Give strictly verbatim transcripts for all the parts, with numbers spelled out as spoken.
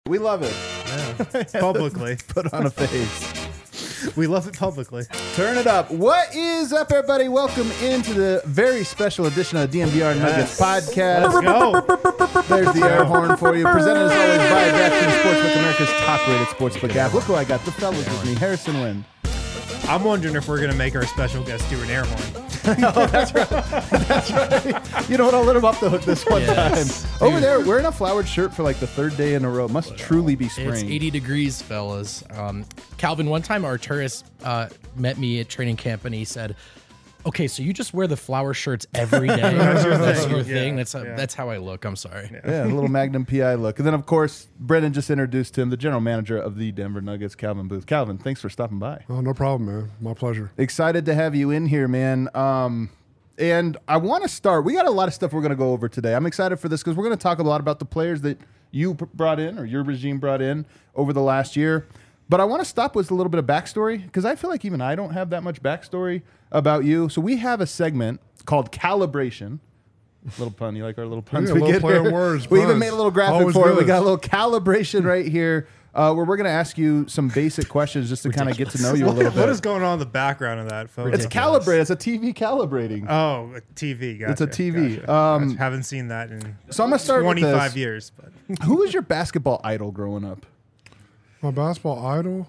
We love it. Yeah, publicly. Put on a face. We love it publicly. Turn it up. What is up, everybody? Welcome into the very special edition of the D N V R Nuggets Yes. podcast. Let's go. There's the air horn for you. Presented as always by DraftKings Sportsbook, America's top-rated sportsbook app. Look who I got. The fellas with me. Harrison Wind. I'm wondering if we're going to make our special guest do an air horn. Oh, that's right. That's right. You know what? I'll let him off the hook this one Yes. time. Over there, wearing a flowered shirt for like the third day in a row. Must truly be spring. It's eighty degrees, fellas. Um, Calvin, one time Arturis uh, met me at training camp and he said, okay, so you just wear the flower shirts every day. That's your That's thing. your Yeah, thing. That's, how, yeah. that's how I look. I'm sorry. Yeah, a little Magnum P I look. And then, of course, Brendan just introduced him, the general manager of the Denver Nuggets, Calvin Booth. Calvin, thanks for stopping by. Oh, no problem, man. My pleasure. Excited to have you in here, man. Um, and I want to start. We got a lot of stuff we're going to go over today. I'm excited for this because we're going to talk a lot about the players that you p- brought in or your regime brought in over the last year. But I want to stop with a little bit of backstory because I feel like even I don't have that much backstory about you. So we have a segment called Calibration. Little pun. You like our little puns? Yeah, we little get play on here? words, We even puns. made a little graphic Always for it. We good. got a little calibration right here uh, where we're going to ask you some basic questions just to kind of get to know you a little bit. What is going on in the background of that photo? It's calibrated. It's a T V calibrating. Oh, a T V. Gotcha, It's a T V. Gotcha, Um, gotcha. Haven't seen that in So I'm gonna start with twenty-five this. years. But Who was your basketball idol growing up? My basketball idol.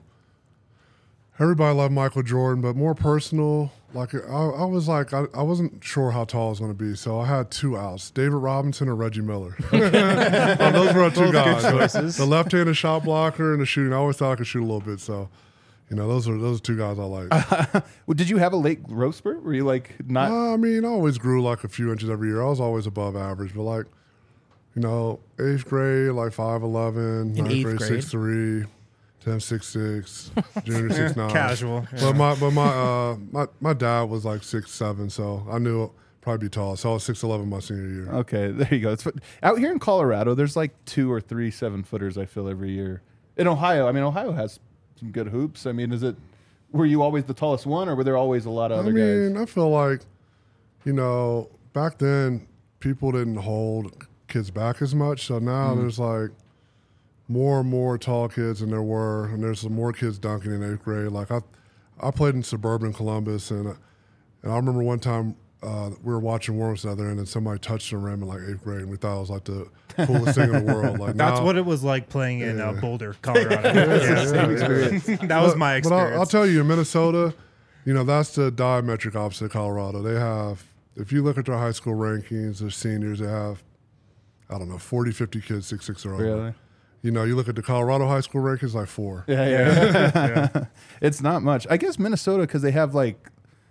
Everybody loved Michael Jordan, but more personal. Like I, I was like, I, I wasn't sure how tall I was going to be, so I had two outs: David Robinson or Reggie Miller. Uh, those were our two guys. choices. The left-handed shot blocker and the shooting. I always thought I could shoot a little bit, so you know, those are those are two guys I like. Well, did you have a late growth spurt? Were you like not? Uh, I mean, I always grew like a few inches every year. I was always above average, but like, you know, eighth grade, like five eleven, In ninth eighth grade, grade? six three, tenth, six six, junior six nine. casual. But my but my uh my, my dad was like six seven, so I knew I'd probably be tall. So I was six eleven my senior year. Okay, there you go. It's, out here in Colorado, there's like two or three seven footers. I feel every year. In Ohio, I mean, Ohio has some good hoops. I mean, is it? Were you always the tallest one, or were there always a lot of I other mean, guys? I feel like, you know, back then people didn't hold kids back as much. So now there's like more and more tall kids than there were, and there's some more kids dunking in eighth grade. Like I, I played in suburban Columbus, and uh, and I remember one time uh, we were watching warm-ups the other end, and somebody touched the rim in like eighth grade, and we thought it was like the coolest thing in the world. Like That's now, what it was like playing in uh, Yeah. Boulder, Colorado. yeah, Same experience. that was But- my But experience. I'll, I'll tell you, in Minnesota, you know, that's the diametric opposite of Colorado. They have, if you look at their high school rankings, their seniors, they have, I don't know, forty, fifty kids, six six or over. Really? You know, you look at the Colorado high school rankings, like four. Yeah, yeah. yeah. It's not much. I guess Minnesota because they have like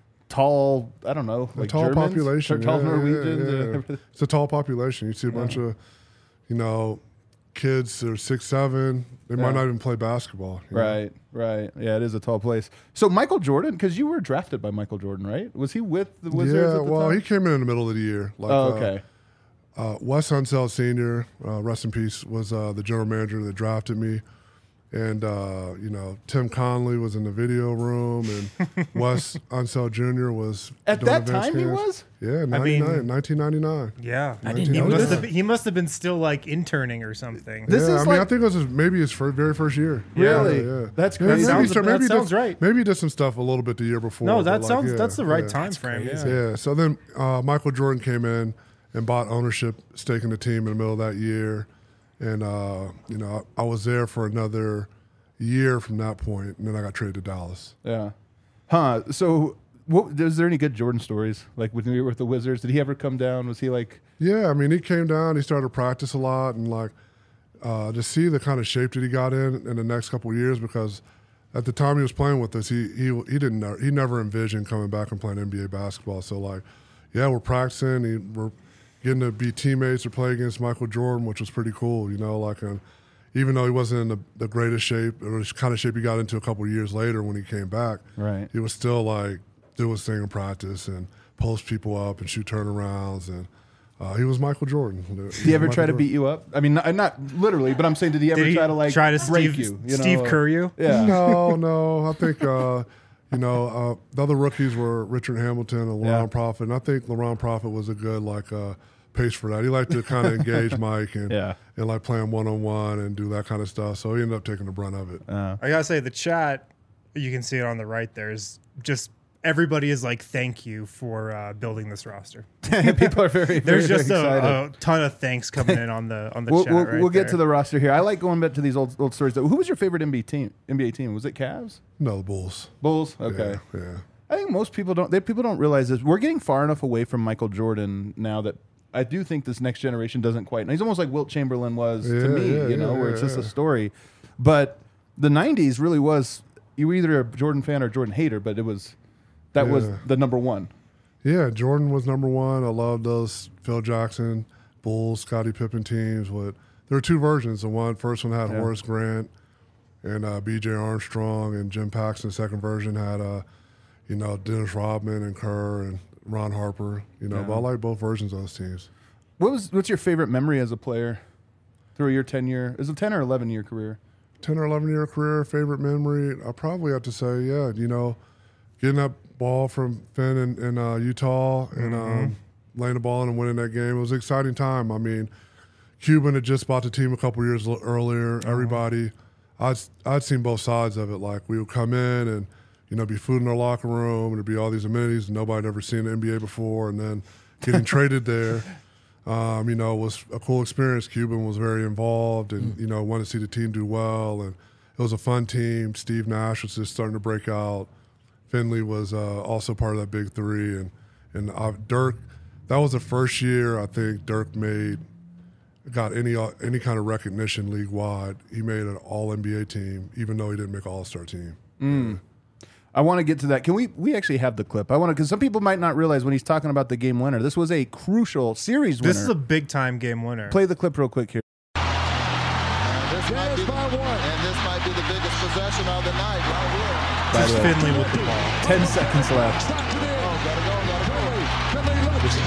tall. I don't know, A like tall Germans, population. or tall yeah, yeah, Norwegians. yeah. and everything. It's a tall population. You see a bunch of, you know, kids that are six, seven. They Yeah. might not even play basketball. you know? Right, right. Yeah, it is a tall place. So Michael Jordan, because you were drafted by Michael Jordan, right? Was he with the Wizards Yeah, at the well, time? he came in in the middle of the year. Like, oh, uh, okay. Uh, Wes Unseld Senior, uh, rest in peace, was uh, the general manager that drafted me. And, uh, you know, Tim Conley was in the video room, and Wes Unseld Junior was At doing that advanced time he scans. was? Yeah, I mean- ninety-nine, nineteen ninety-nine. Yeah. I didn't He know must, that. have, he must have been still like interning or something. This yeah, is I mean, I like- think it was his, maybe his fir- very first year. Really? Yeah, yeah. That's Yeah, crazy. maybe Sounds- he started- that maybe he did- sounds right. Maybe he did some stuff a little bit the year before. no, but that like, sounds yeah, that's the right yeah. time frame. crazy. Yeah. Yeah. So then uh, Michael Jordan came in and bought ownership stake in the team in the middle of that year, and uh, you know I, I was there for another year from that point, and then I got traded to Dallas. Yeah. Huh. So, what, is there any good Jordan stories? Like when you were with the Wizards, did he ever come down? Was he like? Yeah, I mean he came down, he started to practice a lot, and like uh, to see the kind of shape that he got in in the next couple of years, because at the time he was playing with us, he he he didn't know, he never envisioned coming back and playing N B A basketball. So like, yeah, we're practicing, he, we're getting to be teammates or play against Michael Jordan, which was pretty cool, you know, like. And, even though he wasn't in the, the greatest shape, or the kind of shape he got into a couple of years later when he came back, Right. he was still like do his thing in practice and post people up and shoot turnarounds, and uh, he was Michael Jordan. Did he ever try to beat you up? I mean, not, not literally, but I'm saying, did he ever Did he try to like try to break Steve, you? you know? Steve Kerr you? Yeah. No, no. I think uh, you know uh, the other rookies were Richard Hamilton and LaRon Yeah. Prophet, and I think LaRon Prophet was a good like uh, pace for that. He liked to kind of engage Mike and Yeah. and like play him one on one and do that kind of stuff. So he ended up taking the brunt of it. Uh, I gotta say, the chat, you can see it on the right there, is just everybody is like, thank you for uh, building this roster. people are very, There's very just excited. a, a ton of thanks coming in on the on the We'll, chat. we'll, right we'll get there. to the roster here. I like going back to these old old stories. Though. Who was your favorite N B A team? N B A team? Was it Cavs? No, the Bulls. Bulls? Okay. Yeah, yeah. I think most people don't. They, people don't realize this. We're getting far enough away from Michael Jordan now that I do think this next generation doesn't quite. He's almost like Wilt Chamberlain was Yeah, to me, yeah, you know, yeah, where it's yeah, just a yeah. story. But the nineties really was. You were either a Jordan fan or Jordan hater, but it was that was Yeah. the number one. Yeah, Jordan was number one. I loved those Phil Jackson, Bulls, Scottie Pippen teams. But there were two versions. The one first one had Yeah. Horace Grant and uh, B J Armstrong, and Jim Paxson. The second version had, uh, you know, Dennis Rodman and Kerr and Ron Harper. You know, Yeah. but I like both versions of those teams. What was what's your favorite memory as a player through your ten year? Is it ten or eleven year career? ten or eleven year career, favorite memory, I probably have to say, yeah, you know, getting that ball from Finn in, in uh, Utah and um, laying the ball in and winning that game. It was an exciting time. I mean, Cuban had just bought the team a couple years l- earlier. Everybody, I'd, I'd seen both sides of it. Like, we would come in and, you know, be food in our locker room, and there'd be all these amenities, and nobody had ever seen the N B A before, and then getting traded there. Um, you know, was a cool experience. Cuban was very involved and, you know, wanted to see the team do well. And it was a fun team. Steve Nash was just starting to break out. Finley was uh, also part of that big three. And, and uh, Dirk, that was the first year I think Dirk made, got any uh, any kind of recognition league-wide. He made an all N B A team, even though he didn't make an all-star team. I want to get to that. Can we? We actually have the clip. I want to because some people might not realize when he's talking about the game winner. This was a crucial series winner. This is a big time game winner. Play the clip real quick here. This might be, and this might be the biggest possession of the night right here. By Just the way, Finley with the ball. ten seconds left. Oh, gotta go, gotta go.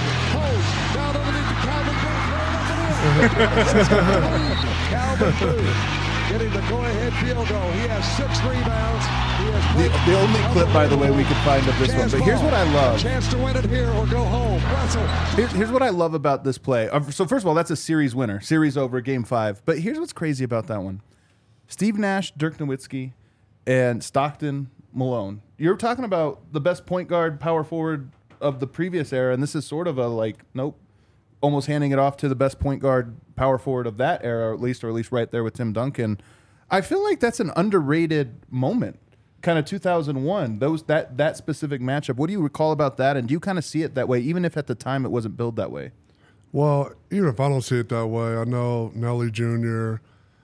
Calvin Booth getting the go-ahead field goal. He has six rebounds. He has The, played the only clip, by the way, we could find of this one. chance But here's ball. what I love. Chance to win it here or go home. Russell. Here's, here's what I love about this play. Uh, So first of all, that's a series winner, series over, game five. But here's what's crazy about that one: Steve Nash, Dirk Nowitzki, and Stockton Malone. You're talking about the best point guard, power forward of the previous era, and this is sort of a like, nope, almost handing it off to the best point guard, power forward of that era, or at least, or at least right there with Tim Duncan. I feel like that's an underrated moment. Kind of two thousand one, those that that specific matchup. What do you recall about that? And do you kind of see it that way, even if at the time it wasn't billed that way? Well, even if I don't see it that way, I know Nelly Junior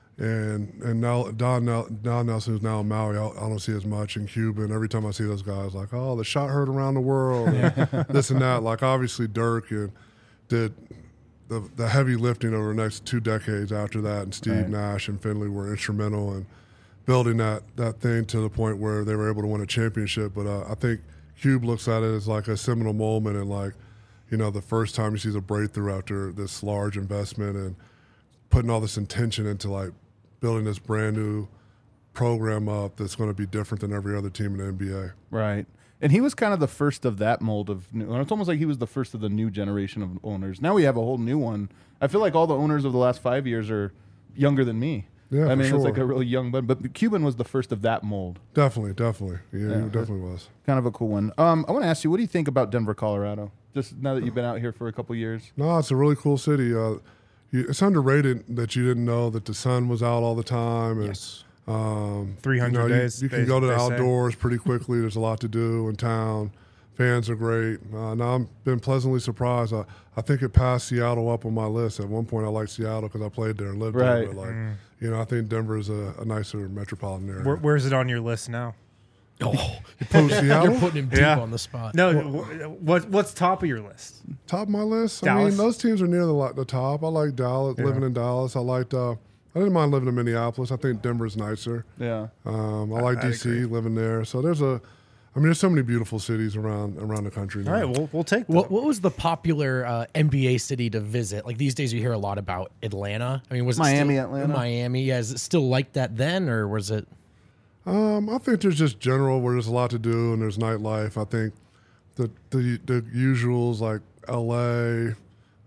and and now Don, Nel, Don Nelson, who's now in Maui, I, I don't see as much in Cuban. Every time I see those guys, like, oh, the shot heard around the world, and this and that. Like, obviously, Dirk and did the the heavy lifting over the next two decades after that, and Steve Right. Nash and Finley were instrumental in building that that thing to the point where they were able to win a championship. But uh, I think Cube looks at it as like a seminal moment, and like, you know, the first time he sees a breakthrough after this large investment and putting all this intention into like building this brand new program up that's going to be different than every other team in the N B A. Right. And he was kind of the first of that mold of new. It's almost like he was the first of the new generation of owners. Now we have a whole new one. I feel like all the owners of the last five years are younger than me. Yeah, I for mean, it's sure. like a really young bud. But Cuban was the first of that mold. Definitely, definitely. Yeah, Yeah. he definitely was. Kind of a cool one. Um, I want to ask you, what do you think about Denver, Colorado? Just now that you've been out here for a couple years. No, it's a really cool city. Uh, you, it's underrated that you didn't know that the sun was out all the time. And, Yes. Um, three hundred you know, you- days, You, can they- go to the they say. outdoors pretty quickly. There's a lot to do in town. Fans are great. Uh, now I've been pleasantly surprised. I, I think it passed Seattle up on my list. At one point, I liked Seattle because I played there and lived Right. there. But like, you know, I think Denver is a, a nicer metropolitan area. Where, where's it on your list now? Oh, Post Seattle, you're putting him deep Yeah. on the spot. No, wh- what what's top of your list? top of my list. I Dallas? mean, those teams are near the, li- the top. I like Dallas. Living in Dallas, I liked. Uh, I didn't mind living in Minneapolis. I think Denver's nicer. Yeah. Um, I like I'd D C agree. living there. So there's a, I mean, there's so many beautiful cities around around the country now. All right, we'll we'll take that. What what was the popular uh, N B A city to visit? Like these days, you hear a lot about Atlanta. I mean, was Miami, it still, Atlanta? Miami? Yeah, is it still like that then, or was it? Um, I think there's just general where there's a lot to do and there's nightlife. I think the the the usuals like L A,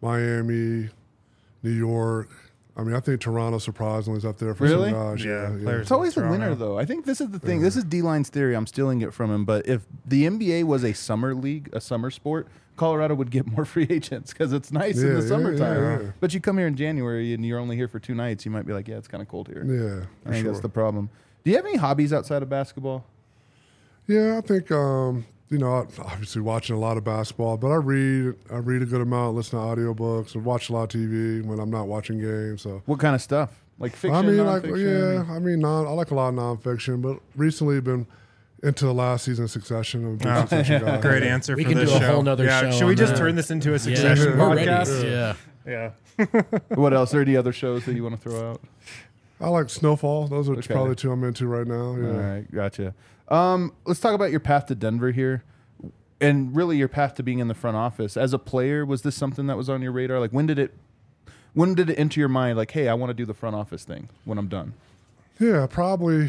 Miami, New York. I mean, I think Toronto surprisingly is up there for Really? some guys. Yeah, Yeah, yeah. players- It's always the Toronto. winner, though. I think this is the thing. This is D-Line's theory. I'm stealing it from him. But if the N B A was a summer league, a summer sport, Colorado would get more free agents because it's nice in Yeah, the yeah, summertime. yeah, yeah. But you come here in January and you're only here for two nights, you might be like, yeah, it's kind of cold here. Yeah, I for think sure. that's the problem. Do you have any hobbies outside of basketball? Yeah, I think um, you know, I- obviously watching a lot of basketball, but I read. I read a good amount, listen to audiobooks, and watch a lot of T V when I'm not watching games. So What kind of stuff? Like fiction, I mean, like nonfiction? yeah, I mean, non, I like a lot of nonfiction, but recently been into the last season of Succession. I'm a big Oh, Succession guy. Great answer We for can this do a show. whole nother yeah, show should we on just that. turn this into a Yeah, Succession we're ready. podcast? Yeah. Yeah. What else? Are there any other shows that you want to throw out? I like Snowfall. Those are Okay. probably two I'm into right now. Yeah. All right, gotcha. Um, let's talk about your path to Denver here, and really your path to being in the front office. As a player, was this something that was on your radar? Like, when did it, when did it enter your mind? Like, hey, I want to do the front office thing when I'm done. Yeah, probably.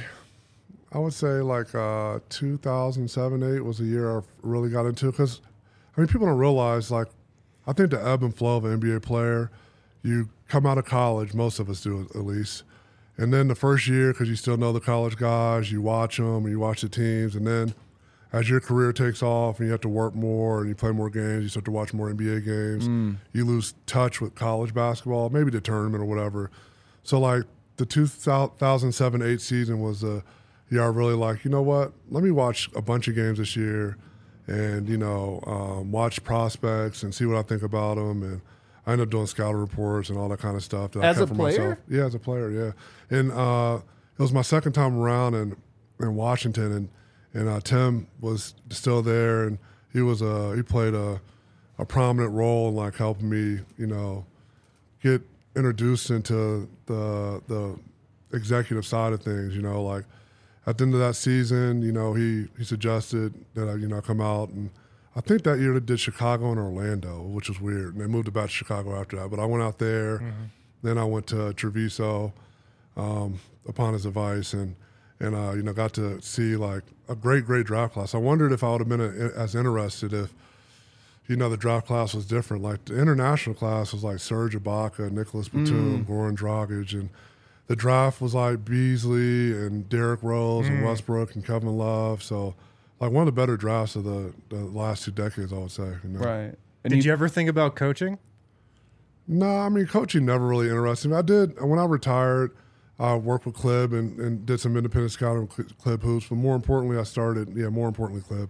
I would say like uh, two thousand seven, eight was the year I really got into it. Because, I mean, people don't realize, like, I think the ebb and flow of an N B A player, you come out of college, most of us do at least. And then the first year, because you still know the college guys, you watch them and you watch the teams. And then as your career takes off and you have to work more and you play more games, you start to watch more N B A games, you lose touch with college basketball, maybe the tournament or whatever. So, like, the two thousand seven eight season was a year I really like, you know what, let me watch a bunch of games this year and, you know, um, watch prospects and see what I think about them. And I ended up doing scouting reports and all that kind of stuff. That As I kept a for myself. player? Yeah, as a player, yeah. And uh, it was my second time around in, in Washington, and and uh, Tim was still there, and he was uh, he played a, a prominent role in like helping me, you know, get introduced into the the executive side of things. You know, like at the end of that season, you know, he he suggested that I you know come out, and I think that year they did Chicago and Orlando, which was weird, and they moved it back to Chicago after that. But I went out there, then I went to Treviso um, upon his advice, and and uh, you know got to see like a great great draft class. I wondered if I would have been a, as interested if you know the draft class was different. Like the international class was like Serge Ibaka, Nicholas Batum, Goran Dragic, and the draft was like Beasley and Derrick Rose and Westbrook and Kevin Love. So like one of the better drafts of the, the last two decades, I would say. You know? Right. And Did you ever think about coaching? No, I mean, coaching never really interested me. I did, when I retired, I worked with Clib and, and did some independent scouting with Clib Hoops. But more importantly, I started, yeah, more importantly, Clib.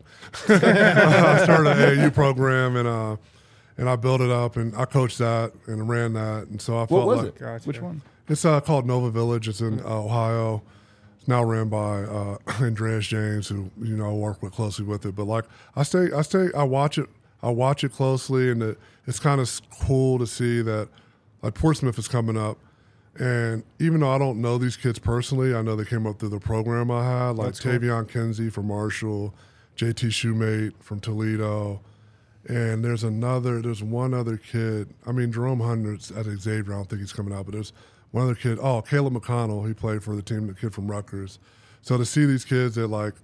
I started an A A U program, and uh, and I built it up, and I coached that and ran that. And so I what felt was like it? Gotcha. Which one? it's uh, called Nova Village. It's in uh, Ohio. It's now ran by uh, Andreas James, who you know I work with closely with it. But like I stay, I stay, I watch it, I watch it closely, and it, it's kind of cool to see that like Portsmouth is coming up, and even though I don't know these kids personally, I know they came up through the program I had, like That's cool. Tavion Kinsey from Marshall, J T Shoemate from Toledo. And there's another, there's one other kid. I mean, Jerome Hunter's at Xavier. I don't think he's coming out, but there's one other kid. Oh, Caleb McConnell. He played for the team, the kid from Rutgers. So to see these kids that like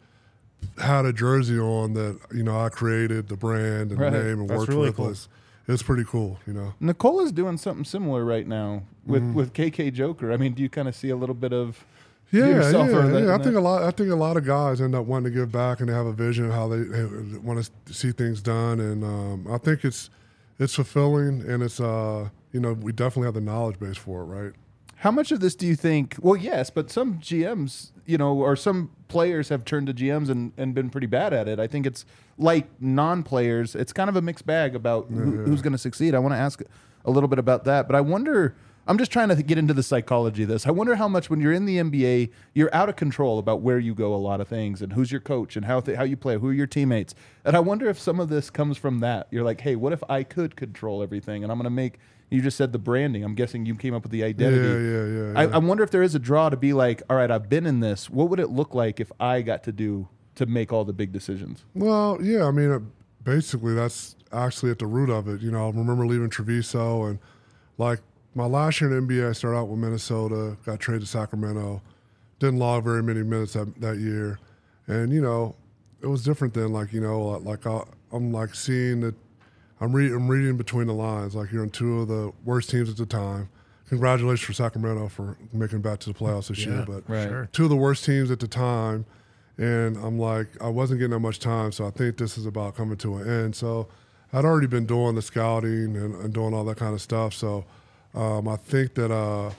had a jersey on that, you know, I created the brand and Right. the name and That's worked really with cool. us. It's pretty cool, you know. Nicola's doing something similar right now with, Mm-hmm. with K K Joker. I mean, do you kind of see a little bit of Yeah, yourself yeah, or that- yeah. I in think that? a lot. I think a lot of guys end up wanting to give back, and they have a vision of how they want to see things done. And um, I think it's it's fulfilling, and it's uh, you know, we definitely have the knowledge base for it, right? How much of this do you think? Well, yes, but some G Ms, you know, or some players have turned to G Ms and, and been pretty bad at it. I think it's like non-players. It's kind of a mixed bag about who, who's going to succeed. I want to ask a little bit about that, but I wonder. I'm just trying to get into the psychology of this. I wonder how much when you're in the N B A, you're out of control about where you go. A lot of things and who's your coach and how th- how you play, who are your teammates. And I wonder if some of this comes from that. You're like, hey, what if I could control everything? And I'm going to make. You just said the branding. I'm guessing you came up with the identity. Yeah, yeah, yeah. I, yeah. I wonder if there is a draw to be like, all right, I've been in this. What would it look like if I got to do to make all the big decisions? Well, yeah. I mean, uh, basically, that's actually at the root of it. You know, I remember leaving Treviso, and like my last year in the N B A, I started out with Minnesota, got traded to Sacramento, didn't log very many minutes that, that year, and you know, it was different than like you know, like I, I'm like seeing that. I'm, re- I'm reading between the lines. Like, you're on two of the worst teams at the time. Congratulations for Sacramento for making it back to the playoffs this Yeah, year. But right. sure. two of the worst teams at the time. And I'm like, I wasn't getting that much time, so I think this is about coming to an end. So I'd already been doing the scouting and, and doing all that kind of stuff. So um, I think that uh,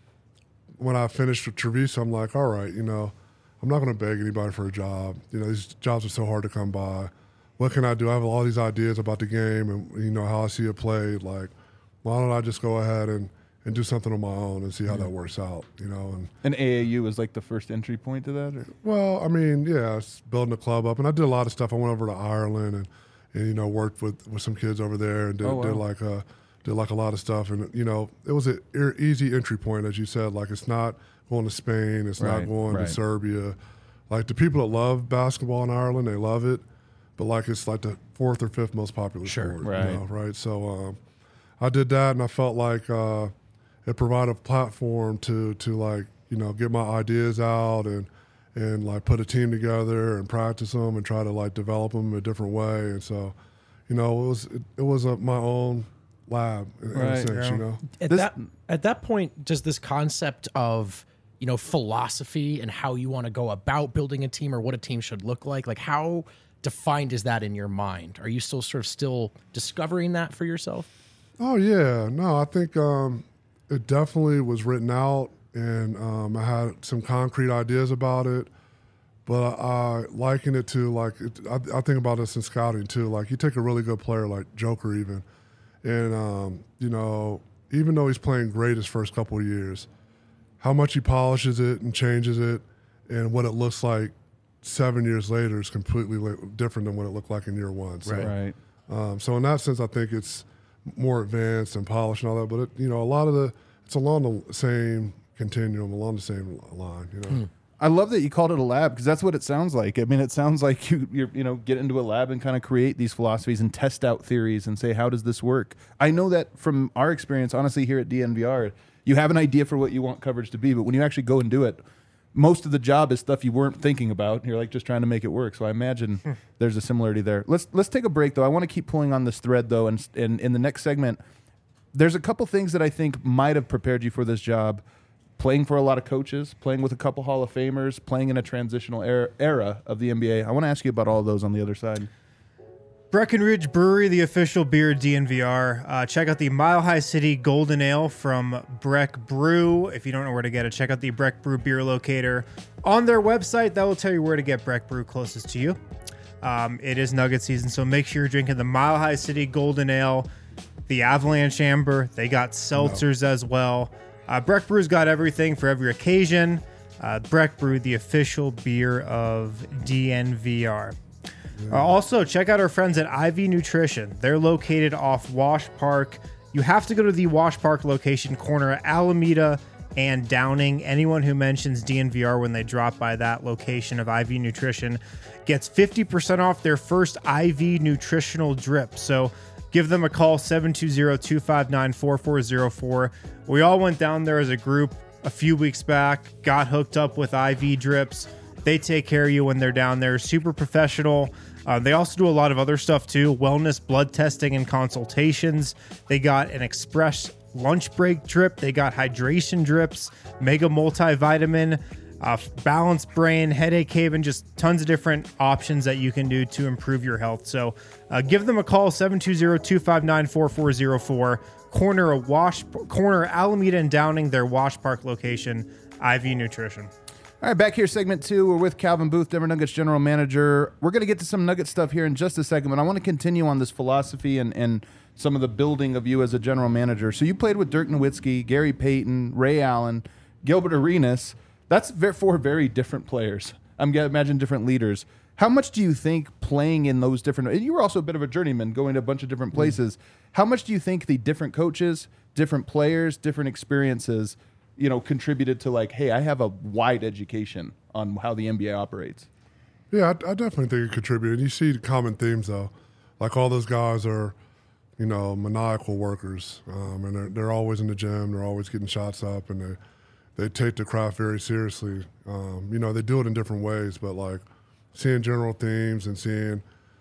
when I finished with Treviso, I'm like, all right, you know, I'm not going to beg anybody for a job. You know, these jobs are so hard to come by. What can I do? I have all these ideas about the game and, you know, how I see it played. Like, why don't I just go ahead and, and do something on my own and see how that works out, you know? And And A A U was like the first entry point to that? Or? well, I mean, yeah, it's building a club up, and I did a lot of stuff. I went over to Ireland and, and you know, worked with, with some kids over there and did, Oh, wow. did like a did like a lot of stuff. And you know, it was an e- easy entry point, as you said. Like, it's not going to Spain, it's Right, not going right. to Serbia. Like, the people that love basketball in Ireland, they love it, but like, it's like the fourth or fifth most popular Sure, sport, right. you know, right? So um, I did that, and I felt like uh, it provided a platform to to like, you know, get my ideas out and and like put a team together and practice them and try to like develop them a different way. And so, you know, it was it, it was a, my own lab in, in Right, a sense, yeah. you know. At This- that at that point, does this concept of, you know, philosophy and how you want to go about building a team or what a team should look like, like how defined is that in your mind? Are you still sort of still discovering that for yourself? Oh yeah, no, I think um, it definitely was written out, and um, I had some concrete ideas about it. But I liken it to like it, I, I think about this in scouting too. Like, you take a really good player like Joker, even, and um, you know, even though he's playing great his first couple of years, how much he polishes it and changes it, and what it looks like seven years later is completely li- different than what it looked like in year one. So, Right. um, so in that sense, I think it's more advanced and polished and all that. But it, you know, a lot of the it's along the same continuum, along the same line. You know, I love that you called it a lab because that's what it sounds like. I mean, it sounds like you you're, you know get into a lab and kind of create these philosophies and test out theories and say, how does this work? I know that from our experience, honestly, here at D N V R, you have an idea for what you want coverage to be, but when you actually go and do it, most of the job is stuff you weren't thinking about. You're like just trying to make it work. So I imagine there's a similarity there. Let's let's take a break though. I want to keep pulling on this thread though, and and in the next segment, there's a couple things that I think might have prepared you for this job. Playing for a lot of coaches, playing with a couple Hall of Famers, playing in a transitional era, era of the N B A. I want to ask you about all of those on the other side. Breckenridge Brewery, the official beer of D N V R. Uh, check out the Mile High City Golden Ale from Breck Brew. If you don't know where to get it, check out the Breck Brew beer locator on their website. That will tell you where to get Breck Brew closest to you. Um, it is Nugget season, so make sure you're drinking the Mile High City Golden Ale, the Avalanche Amber. They got seltzers as well. Uh, Breck Brew's got everything for every occasion. Uh, Breck Brew, the official beer of D N V R. Uh, also, check out our friends at I V Nutrition. They're located off Wash Park. You have to go to the Wash Park location, corner of Alameda and Downing. Anyone who mentions D N V R when they drop by that location of I V Nutrition gets fifty percent off their first I V nutritional drip. So give them a call, seven two zero, two five nine, four four zero four. We all went down there as a group a few weeks back, got hooked up with I V drips. They take care of you when they're down there. Super professional. Uh, they also do a lot of other stuff too. Wellness, blood testing, and consultations. They got an express lunch break drip. They got hydration drips, mega multivitamin, uh, balanced brain, headache haven, just tons of different options that you can do to improve your health. So uh, give them a call, seven two zero, two five nine, four four zero four. Corner of Wash, corner Alameda and Downing, their Wash Park location, I V Nutrition. All right, back here, segment two. We're with Calvin Booth, Denver Nuggets general manager. We're going to get to some Nugget stuff here in just a second, but I want to continue on this philosophy and, and some of the building of you as a general manager. So you played with Dirk Nowitzki, Gary Payton, Ray Allen, Gilbert Arenas. That's ve- four very different players. I'm going to imagine different leaders. How much do you think playing in those different, and you were also a bit of a journeyman going to a bunch of different places. Mm. How much do you think the different coaches, different players, different experiences, you know, contributed to like, hey, I have a wide education on how the N B A operates? Yeah, I, I definitely think it contributed. You see common themes though, like all those guys are, you know, maniacal workers, um, and they're they're always in the gym. They're always getting shots up, and they they take the craft very seriously. Um, you know, they do it in different ways, but like seeing general themes and seeing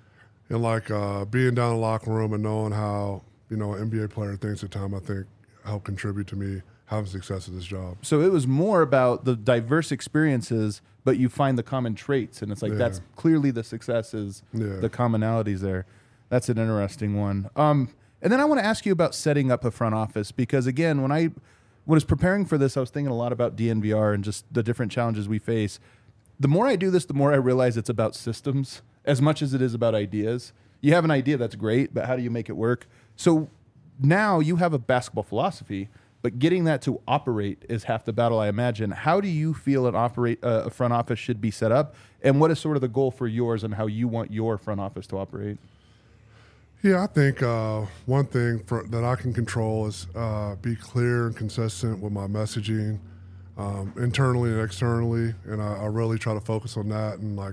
and like uh, being down in the locker room and knowing how, you know, an N B A player thinks at the time, I think helped contribute to me having success at this job. So it was more about the diverse experiences, but you find the common traits, and it's like Yeah. that's clearly the success is Yeah. the commonalities there. That's an interesting one. Um, and then I want to ask you about setting up a front office, because again, when I when I was preparing for this, I was thinking a lot about D N V R and just the different challenges we face. The more I do this, the more I realize it's about systems as much as it is about ideas. You have an idea, that's great, but how do you make it work? So now you have a basketball philosophy, but getting that to operate is half the battle, I imagine. How do you feel an operate uh, a front office should be set up, and what is sort of the goal for yours and how you want your front office to operate? Yeah, I think uh, one thing for, that I can control is uh, be clear and consistent with my messaging, um, internally and externally, and I, I really try to focus on that. And like,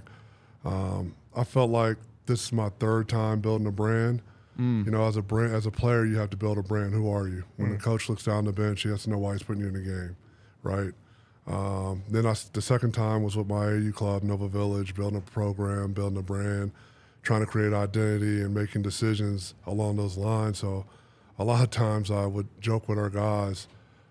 um, I felt like this is my third time building a brand. Mm. You know, as a brand, as a player, you have to build a brand. Who are you? When mm. the coach looks down the bench, he has to know why he's putting you in the game, right? Um, then I, the second time was with my A U club, Nova Village, building a program, building a brand, trying to create identity and making decisions along those lines. So a lot of times I would joke with our guys,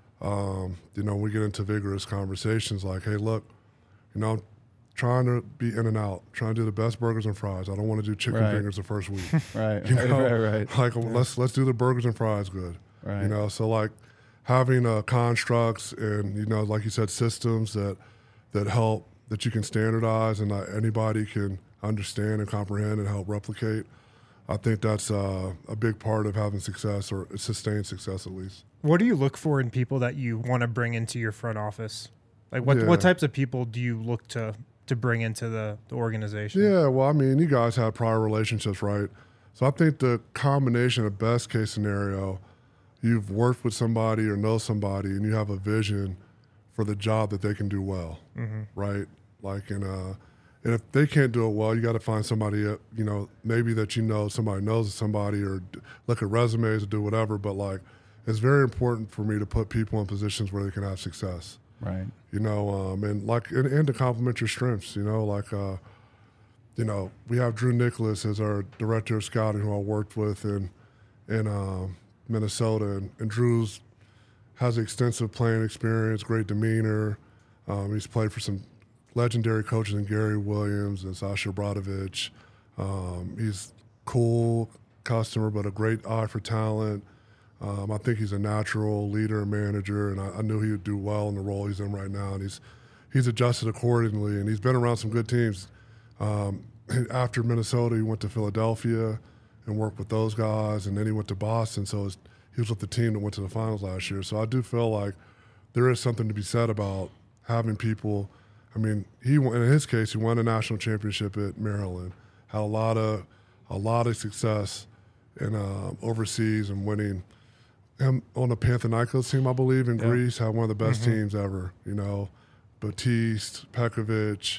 um, you know, we get into vigorous conversations like, hey, look, you know, I'm trying to be in and out, trying to do the best burgers and fries. I don't want to do chicken Right. fingers the first week. Right, You know, right, right. Like, let's let's do the burgers and fries good. Right. You know, so like having uh, constructs and, you know, like you said, systems that that help, that you can standardize and that anybody can understand and comprehend and help replicate. I think that's uh, a big part of having success, or sustained success at least. What do you look for in people that you want to bring into your front office? Like what, Yeah. what types of people do you look to to bring into the, the organization? Yeah, well, I mean, you guys have prior relationships, right? So I think the combination of best case scenario, you've worked with somebody or know somebody and you have a vision for the job that they can do well, mm-hmm. right? Like, in uh, and if they can't do it well, you got to find somebody, uh, you know, maybe that you know, somebody knows somebody, or d- look at resumes or do whatever. But like, it's very important for me to put people in positions where they can have success. Right. You know, um, and like, and, and to complement your strengths, you know, like, uh, you know, we have Drew Nicholas as our director of scouting, who I worked with in, in um, Minnesota. And, and Drew's has extensive playing experience, great demeanor. Um, he's played for some legendary coaches in Gary Williams and Sasha Bradovich. Um, he's cool customer, but a great eye for talent. Um, I think he's a natural leader and manager, and I, I knew he would do well in the role he's in right now. And he's he's adjusted accordingly, and he's been around some good teams. Um, after Minnesota, he went to Philadelphia and worked with those guys, and then he went to Boston. So his, he was with the team that went to the finals last year. So I do feel like there is something to be said about having people. I mean, he in his case, he won a national championship at Maryland, had a lot of a lot of success in uh, overseas and winning. Him on the Panathinaikos team, I believe, in Yeah. Greece, had one of the best Mm-hmm. teams ever. You know, Batiste, Pekovic,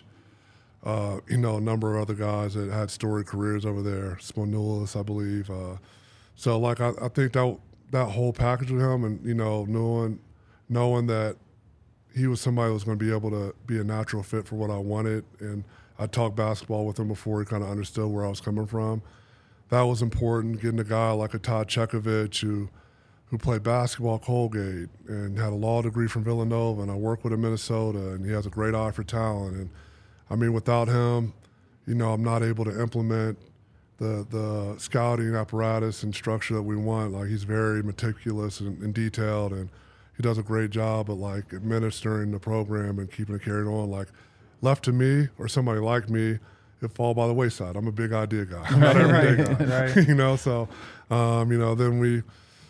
uh, you know, a number of other guys that had storied careers over there. Sponoulis, I believe. Uh, so, like, I, I think that that whole package with him, and you know, knowing knowing that he was somebody who was going to be able to be a natural fit for what I wanted, and I talked basketball with him before he kind of understood where I was coming from. That was important. Getting a guy like a Todd Chekovich who who played basketball at Colgate and had a law degree from Villanova, and I worked with him in Minnesota, and he has a great eye for talent. And I mean, without him, you know, I'm not able to implement the the scouting apparatus and structure that we want. Like, he's very meticulous and, and detailed, and he does a great job at like administering the program and keeping it carried on. Like, left to me or somebody like me, it fall by the wayside. I'm a big idea guy. I'm not an everyday guy. Right. You know, so um, you know, then we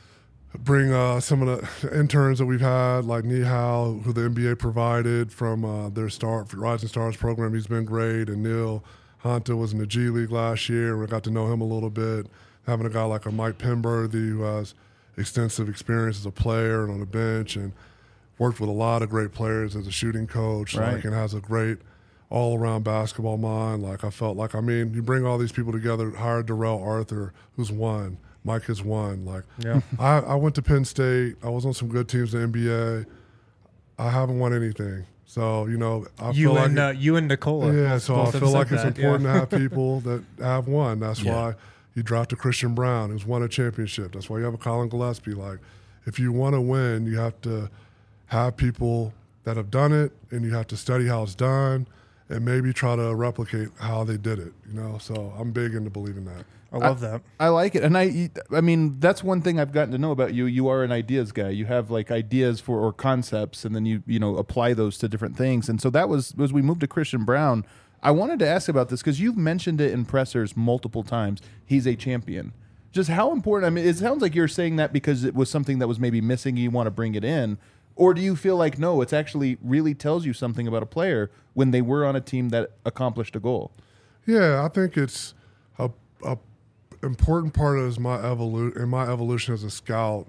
bring uh, some of the interns that we've had, like Nihal, who the N B A provided from uh, their star Rising Stars program. He's been great. And Neil Honta was in the G League last year. We got to know him a little bit. Having a guy like a Mike Penberthy, who has extensive experience as a player and on the bench, and worked with a lot of great players as a shooting coach, Right. like, and has a great all-around basketball mind. Like, I felt like, I mean, you bring all these people together, hired Darrell Arthur, who's won. Mike has won. Like, Yeah. I, I went to Penn State. I was on some good teams in the N B A. I haven't won anything. So, you know, I You feel and like uh, you and Nicola. yeah, both- so both I have feel said like it's that, important yeah. to have people that have won. That's Yeah. why you drafted Christian Brown, who's won a championship. That's why you have a Colin Gillespie. Like, if you want to win, you have to have people that have done it, and you have to study how it's done, and maybe try to replicate how they did it. You know, so I'm big into believing that. I love that. I like it, and I, I mean, that's one thing I've gotten to know about you. You are an ideas guy. You have like ideas for or concepts, and then you, you know, apply those to different things. And so that was as we moved to Christian Brown. I wanted to ask about this because you've mentioned it in pressers multiple times. He's a champion. Just how important? I mean, it sounds like you're saying that because it was something that was maybe missing. You want to bring it in, or do you feel like no? It's actually really tells you something about a player when they were on a team that accomplished a goal. Yeah, I think it's a, a important part of my evolu- in my evolution as a scout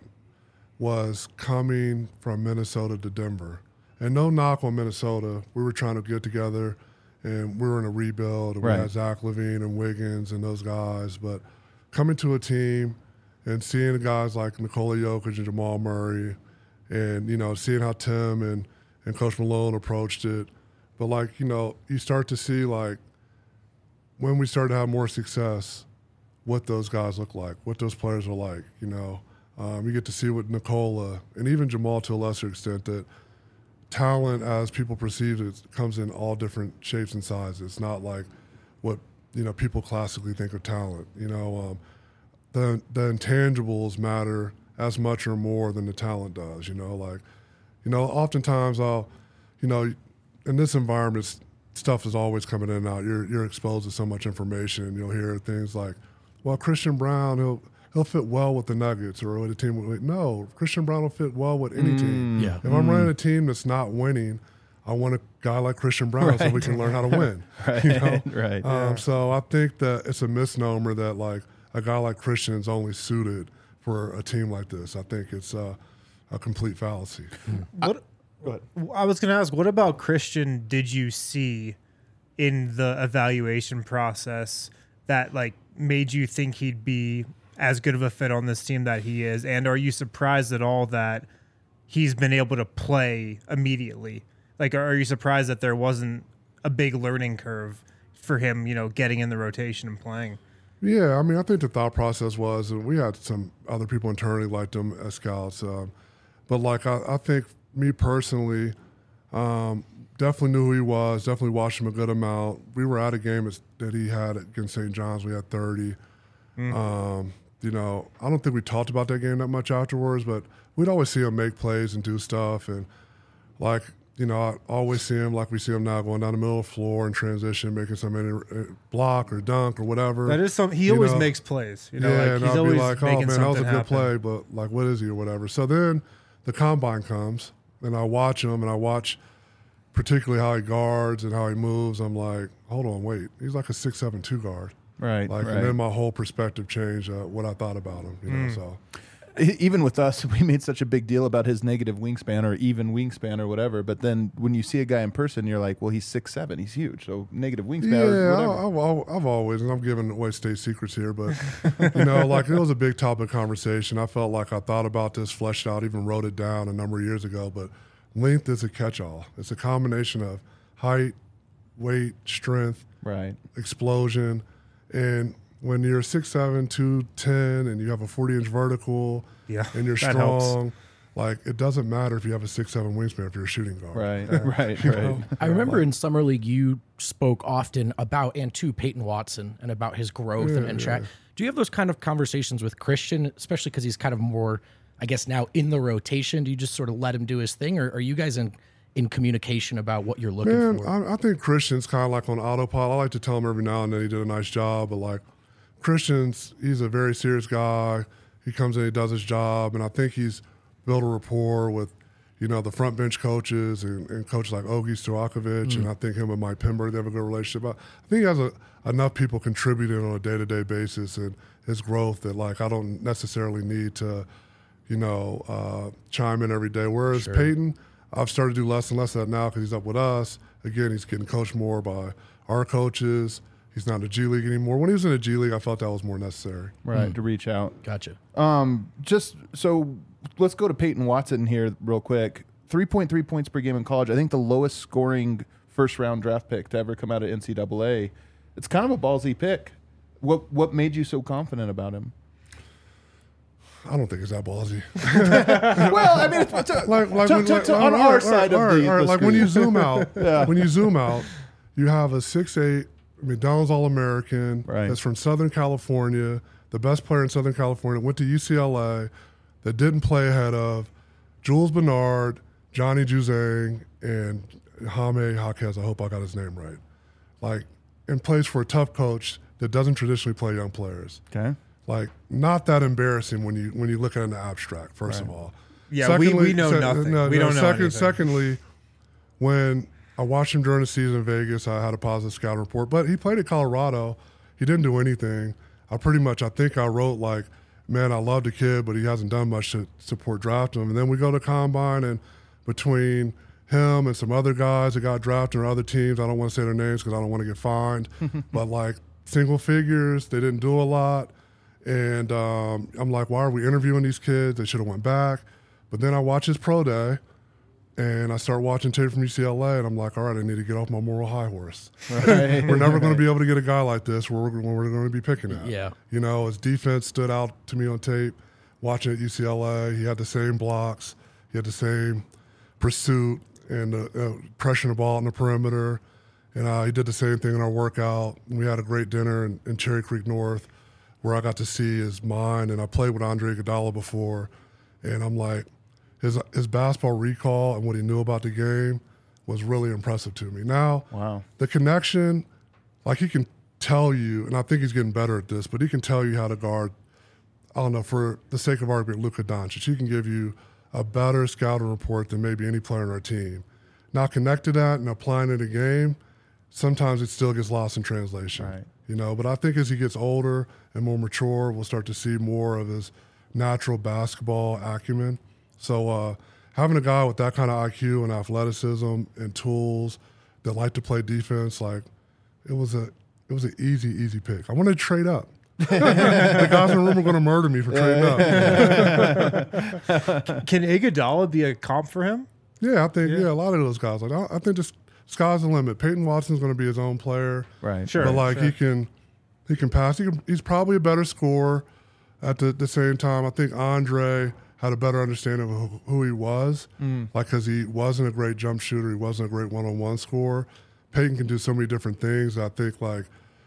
was coming from Minnesota to Denver. And no knock on Minnesota. We were trying to get together, and we were in a rebuild. And Right. We had Zach LaVine and Wiggins and those guys. But coming to a team and seeing guys like Nikola Jokic and Jamal Murray, and you know, seeing how Tim and, and Coach Malone approached it. But like, you know, you start to see like when we started to have more success, what those guys look like, what those players are like. You know, um, you get to see what Nikola and even Jamal to a lesser extent that talent, as people perceive it, comes in all different shapes and sizes. It's not like what you know people classically think of talent. You know, um, the the intangibles matter as much or more than the talent does. You know, like you know, oftentimes I'll, you know, in this environment, s- stuff is always coming in and out. You're you're exposed to so much information. You'll hear things like, well, Christian Brown, he'll he'll fit well with the Nuggets or with a team. With, no, Christian Brown will fit well with any team. Yeah. If I'm running a team that's not winning, I want a guy like Christian Brown so we can learn how to win. Right, You know? right. Um, So I think that it's a misnomer that like a guy like Christian is only suited for a team like this. I think it's uh, a complete fallacy. What, I was going to ask, what about Christian did you see in the evaluation process that like made you think he'd be as good of a fit on this team that he is? And are you surprised at all that he's been able to play immediately? Like, are you surprised that there wasn't a big learning curve for him, you know, getting in the rotation and playing? Yeah, I mean, I think the thought process was, and we had some other people internally liked him as scouts, um, but like I, I think me personally, um, definitely knew who he was. Definitely watched him a good amount. We were at a game as- that he had against Saint John's. We had thirty. Um, you know, I don't think we talked about that game that much afterwards, but we'd always see him make plays and do stuff, and like. You know, I always see him like we see him now going down the middle of the floor in transition, making some any block or dunk or whatever. That is some. He You always know, makes plays. You know, yeah, like and he's I'll always be like, oh making man, that was something a good happen. play, but like, what is he or whatever. So then the combine comes, and I watch him, and I watch particularly how he guards and how he moves. I'm like, hold on, wait, he's like a six seven two guard. Right, Like, right. and then my whole perspective changed uh, what I thought about him. You know, so E- Even with us, we made such a big deal about his negative wingspan or even wingspan or whatever. But then when you see a guy in person, you're like, well, he's six seven, he's huge. So negative wingspan yeah, or whatever. I, I've, al- I've always, and I'm giving away state secrets here, but you know, like it was a big topic of conversation. I felt like I thought about this, fleshed out, even wrote it down a number of years ago. But length is a catch-all. It's a combination of height, weight, strength, Right. explosion, and when you're six seven, two ten, and you have a forty inch vertical, Yeah, and you're that helps. strong, like it doesn't matter if you have a six seven wingspan if you're a shooting guard. Right. right. Right. I remember in summer league you spoke often about and to Peyton Watson and about his growth and, and track. Do you have those kind of conversations with Christian, especially because he's kind of more, I guess, now in the rotation? Do you just sort of let him do his thing, or are you guys in in communication about what you're looking Man, for? I, I think Christian's kind of like on autopilot. I like to tell him every now and then he did a nice job, but like Christian's, he's a very serious guy. He comes in, he does his job, and I think he's built a rapport with, you know, the front bench coaches and, and coaches like Ogie Stojakovic, and I think him and Mike Pember, they have a good relationship. I, I think he has a, enough people contributing on a day-to-day basis and his growth that, like, I don't necessarily need to, you know, uh, chime in every day. Whereas Peyton, I've started to do less and less of that now because he's up with us. Again, he's getting coached more by our coaches. He's not in the G League anymore. When he was in the G League, I felt that was more necessary. Right. To reach out. Gotcha. Um, just so let's go to Peyton Watson here real quick. three point three points per game in college. I think the lowest scoring first round draft pick to ever come out of N C double A. It's kind of a ballsy pick. What what made you so confident about him? I don't think it's that ballsy. Well, I mean, it's, it's a, like, like, to, when, to, like to, all on right, our all side right, of all right, the, all right, the like when you screen. zoom out, Yeah. when you zoom out, you have a six eight McDonald's All-American Right. that's from Southern California, the best player in Southern California, went to U C L A, that didn't play ahead of Jules Bernard, Johnny Juzang, and Jaime Jaquez. I hope I got his name right. Like, and plays for a tough coach that doesn't traditionally play young players. Okay. Like, not that embarrassing when you when you look at it in the abstract, first Right. of all. Yeah, we- we know nothing. We don't know second, anything. Secondly, when I watched him during the season in Vegas, I had a positive scout report, but he played at Colorado. He didn't do anything. I pretty much, I think I wrote like, man, I love the kid, but he hasn't done much to support drafting him. And then we go to Combine, and between him and some other guys that got drafted or other teams, I don't want to say their names because I don't want to get fined, but like single figures, they didn't do a lot. And um, I'm like, why are we interviewing these kids? They should have went back. But then I watch his pro day, and I start watching tape from U C L A, and I'm like, all right, I need to get off my moral high horse. Right. We're never going to be able to get a guy like this where we're, when we're going to be picking at. Yeah. You know, his defense stood out to me on tape. Watching at U C L A, he had the same blocks, he had the same pursuit and uh, uh, pressuring the ball on the perimeter. And uh, he did the same thing in our workout. We had a great dinner in, in Cherry Creek North where I got to see his mind. And I played with Andre Iguodala before, and I'm like, his his basketball recall and what he knew about the game was really impressive to me. Now, Wow. the connection, like he can tell you, and I think he's getting better at this, but he can tell you how to guard, I don't know, for the sake of argument, Luka Doncic. He can give you a better scouting report than maybe any player on our team. Now, connect to that and applying it in a game, sometimes it still gets lost in translation. Right. You know, but I think as he gets older and more mature, we'll start to see more of his natural basketball acumen. So uh, having a guy with that kind of I Q and athleticism and tools that like to play defense, like it was a it was an easy, easy pick. I wanted to trade up. The guys in the room are going to murder me for trading up. Can Iguodala be a comp for him? Yeah, I think yeah, a lot of those guys. Like I, I think just sky's the limit. Peyton Watson's going to be his own player. Right. Sure. But like sure. he can, he can pass. He can, he's probably a better scorer. At the, the same time, I think Andre had a better understanding of who, who he was. Mm. Like because he wasn't a great jump shooter, he wasn't a great one-on-one scorer. Peyton can do so many different things. I think like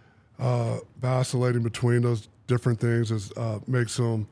uh, vacillating between those different things is uh, makes him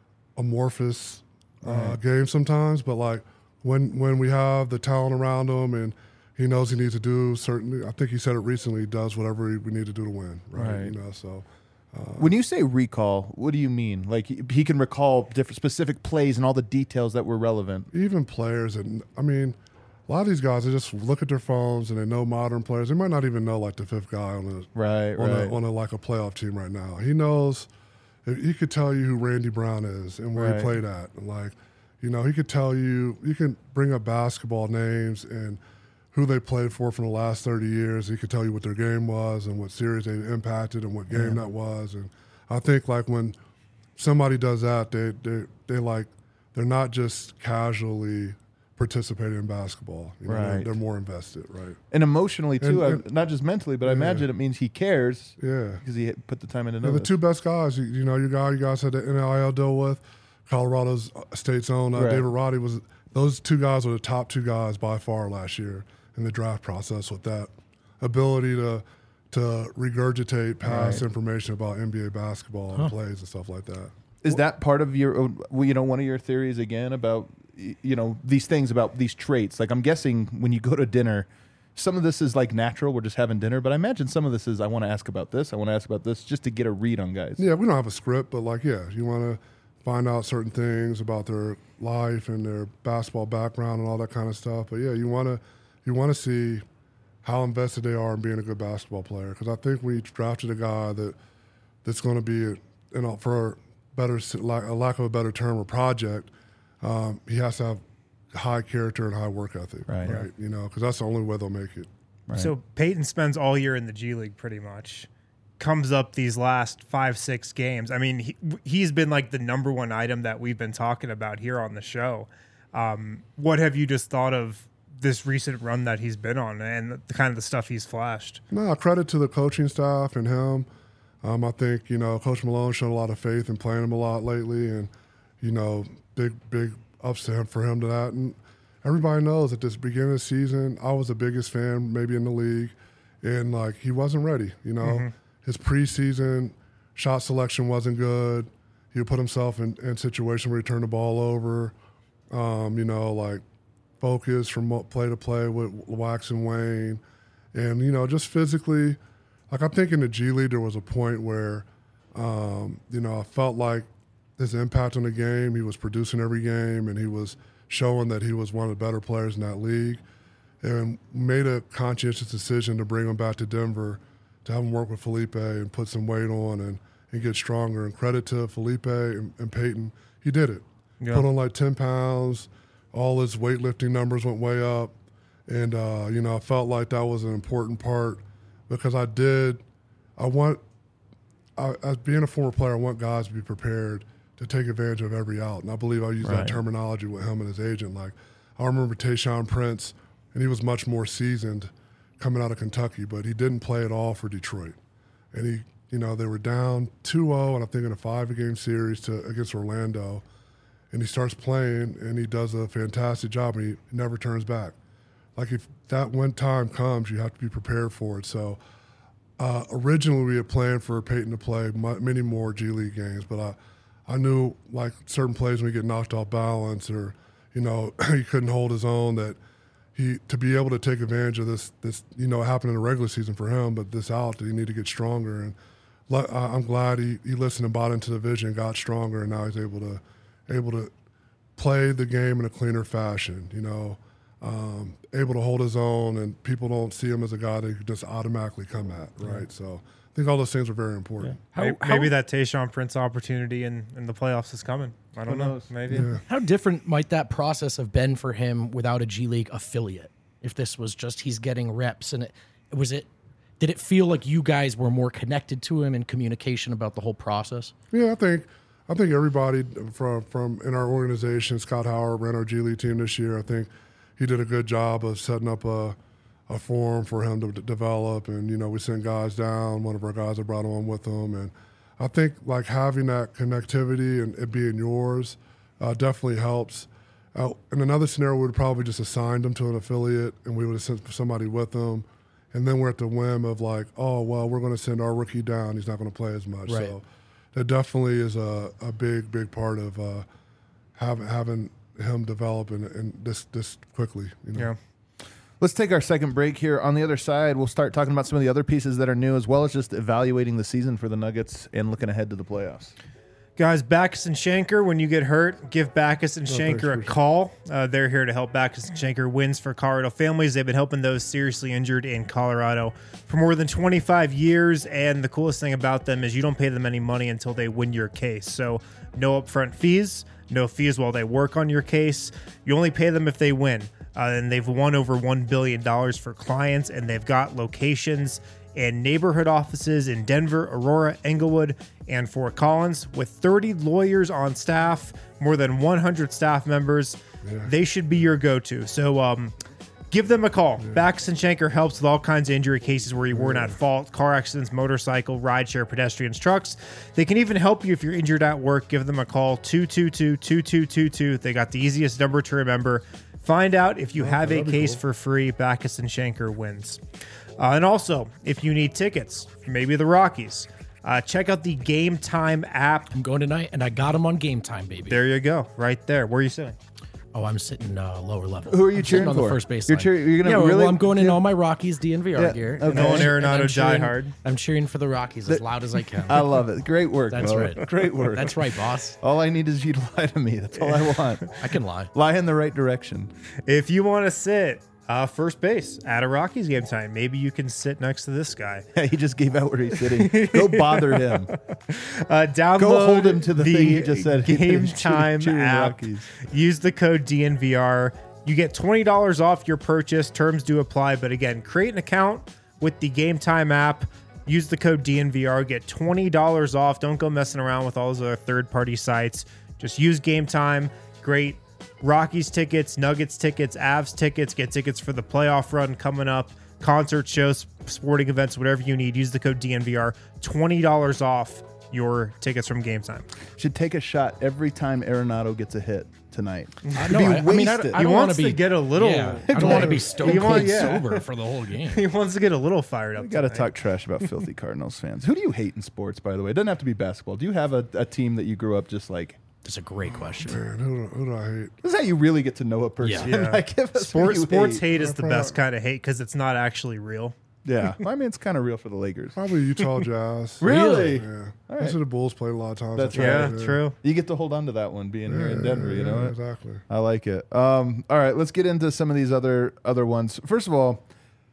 amorphous uh, Right. game sometimes. But like when when we have the talent around him and he knows he needs to do certain. I think he said it recently. He does whatever we need to do to win. Right. Right. You know. So When you say recall, what do you mean? Like he, he can recall different specific plays and all the details that were relevant. even players, and I mean, a lot of these guys, they just look at their phones and they know modern players. They might not even know like the fifth guy on a Right, on right. a, on a like a playoff team right now. He knows. He could tell you who Randy Brown is and where Right. he played at. And like, you know, he could tell you. You can bring up basketball names and who they played for from the last thirty years. He could tell you what their game was and what series they impacted and what game that was. And I think like when somebody does that, they they they like they're not just casually participating in basketball. You know, they're, Right. they're more invested, right? And emotionally too, And- I- not just mentally, but I imagine it means he cares Yeah. because he hit- put the time in to know Yeah, the this. two best guys, you, you know, you guy you guys had the N I L deal with, Colorado's State's own uh, Right. David Roddy was. Those two guys were the top two guys by far last year in the draft process with that ability to to regurgitate past Right. information about N B A basketball and plays and stuff like that. Is that part of your, own- well, you know, one of your theories again about, y- you know, these things about these traits? Like I'm guessing when you go to dinner, some of this is like natural. We're just having dinner, but I imagine some of this is I want to ask about this. I want to ask about this just to get a read on guys. Yeah, we don't have a script, but like, yeah, you want to find out certain things about their life and their basketball background and all that kind of stuff. But yeah, you want to you want to see how invested they are in being a good basketball player. Because I think we drafted a guy that that's going to be, you know, for better lack, a lack of a better term, a project. Um, he has to have high character and high work ethic, Right. right? You know, because that's the only way they'll make it. Right. So Peyton spends all year in the G League pretty much. Comes up these last five, six games. I mean, he, he's been like the number one item that we've been talking about here on the show. Um, what have you just thought of this recent run that he's been on and the kind of the stuff he's flashed? No, credit to the coaching staff and him. Um, I think, you know, Coach Malone showed a lot of faith in playing him a lot lately, and, you know, big, big ups to him for him to that. And everybody knows at this beginning of the season, I was the biggest fan maybe in the league, and, like, he wasn't ready, you know. Mm-hmm. His preseason shot selection wasn't good. He would put himself in, in situations where he turned the ball over, um, you know, like focus from play to play with Wax and Wayne. And, you know, just physically – like, I think in the G League there was a point where, um, you know, I felt like his impact on the game, he was producing every game, and he was showing that he was one of the better players in that league, and made a conscientious decision to bring him back to Denver to have him work with Felipe and put some weight on and, and get stronger. And credit to Felipe and, and Peyton, he did it. Yeah. Put on like ten pounds, all his weightlifting numbers went way up, and, uh, you know, I felt like that was an important part. Because I did, I want, I, as being a former player, I want guys to be prepared to take advantage of every out. And I believe I use right. that terminology with him and his agent. Like, I remember Tayshaun Prince, and he was much more seasoned coming out of Kentucky, but he didn't play at all for Detroit. And he, you know, they were down two oh, and I think in a five-game series to against Orlando. And he starts playing, and he does a fantastic job, and he never turns back. Like, if that when time comes, you have to be prepared for it. So uh, originally we had planned for Peyton to play m- many more G League games, but I, I knew, like, certain plays when he get knocked off balance or, you know, he couldn't hold his own, that he to be able to take advantage of this, this you know, it happened in the regular season for him, but this out, that he needed to get stronger. And le- I'm glad he, he listened and bought into the vision, got stronger, and now he's able to able to play the game in a cleaner fashion, you know. Um, able to hold his own, and people don't see him as a guy that can just automatically come at, right? Yeah. So I think all those things are very important. Yeah. How, how, maybe that Tayshaun Prince opportunity in, in the playoffs is coming. I don't know. Maybe. Yeah. How different might that process have been for him without a G League affiliate? If this was just he's getting reps, and it was it, did it feel like you guys were more connected to him in communication about the whole process? Yeah, I think I think everybody from from in our organization, Scott Howard ran our G League team this year. I think he did a good job of setting up a, a forum for him to d- develop. And, you know, we sent guys down. One of our guys I brought on with him. And I think, like, having that connectivity and it being yours uh, definitely helps. Uh, in another scenario, we would probably just assigned him to an affiliate, and we would have sent somebody with him. And then we're at the whim of, like, oh, well, we're going to send our rookie down. He's not going to play as much. Right. So that definitely is a, a big, big part of uh, having having – him develop in, in this this quickly. You know? Yeah. Let's take our second break here. On the other side, we'll start talking about some of the other pieces that are new, as well as just evaluating the season for the Nuggets and looking ahead to the playoffs. Guys, Backus and Shanker, when you get hurt, give Backus and Shanker a call. Uh, they're here to help Backus and Shanker wins for Colorado families. They've been helping those seriously injured in Colorado for more than twenty-five years, and the coolest thing about them is you don't pay them any money until they win your case. So no upfront fees, no fees while they work on your case. You only pay them if they win. Uh, and they've won over one billion dollars for clients, and they've got locations and neighborhood offices in Denver, Aurora, Englewood, and Fort Collins. With thirty lawyers on staff, more than one hundred staff members, yeah. They should be your go-to. So um, give them a call. Yeah. Backus and Shanker helps with all kinds of injury cases where you weren't yeah. at fault, car accidents, motorcycle, rideshare, pedestrians, trucks. They can even help you if you're injured at work. Give them a call, two two two, two two two two. They got the easiest number to remember. Find out if you oh, have a case cool. for free. Backus and Shanker wins. Uh, and also, if you need tickets, maybe the Rockies, uh, check out the Game Time app. I'm going tonight, and I got them on Game Time, baby. There you go, right there. Where are you sitting? Oh, I'm sitting uh, lower level. Who are you I'm cheering on for? The first base. You're, cheer- you're gonna yeah, really. Well, I'm going in all my Rockies D N V R yeah, gear. Okay. Going Arenado cheering, diehard. I'm cheering for the Rockies as loud as I can. I love it. Great work. That's Bo. right. Great work. That's right, boss. All I need is you to lie to me. That's all I want. I can lie. Lie in the right direction. If you want to sit uh, first base at a Rockies game time, maybe you can sit next to this guy. Yeah, he just gave out where he's sitting. Go bother him. Uh, download Go hold him to the, the thing he just said. Game Time app. Rockies. Use the code D N V R. You get twenty dollars off your purchase. Terms do apply. But again, create an account with the Game Time app. Use the code D N V R. Get twenty dollars off. Don't go messing around with all those other third-party sites. Just use Game Time. Great Rockies tickets, Nuggets tickets, Avs tickets, get tickets for the playoff run coming up, concert shows, sporting events, whatever you need. Use the code D N V R, twenty dollars off your tickets from Game Time. Should take a shot every time Arenado gets a hit tonight. I know. I, I mean, I, don't- I He don't want wants to to be get a little- Yeah, I don't want to be stone He cold want- yeah. sober for the whole game. He wants to get a little fired up. We got to tonight. talk trash about filthy Cardinals fans. Who do you hate in sports, by the way? It doesn't have to be basketball. Do you have a, a team that you grew up just like? That's a great question. Man, who do, who do I hate? This is how you really get to know a person. Yeah. Yeah. Like, give us who Sports, you sports hate. hate is the best kind of hate because it's not actually real. Yeah. Well, I mean, it's kind of real for the Lakers. Probably Utah Jazz. Really? Yeah. All Those right. are the Bulls played a lot of times. That's I Yeah, think. true. You get to hold on to that one being here in Denver, you know Yeah, what? exactly. I like it. Um, all right, let's get into some of these other other ones. First of all,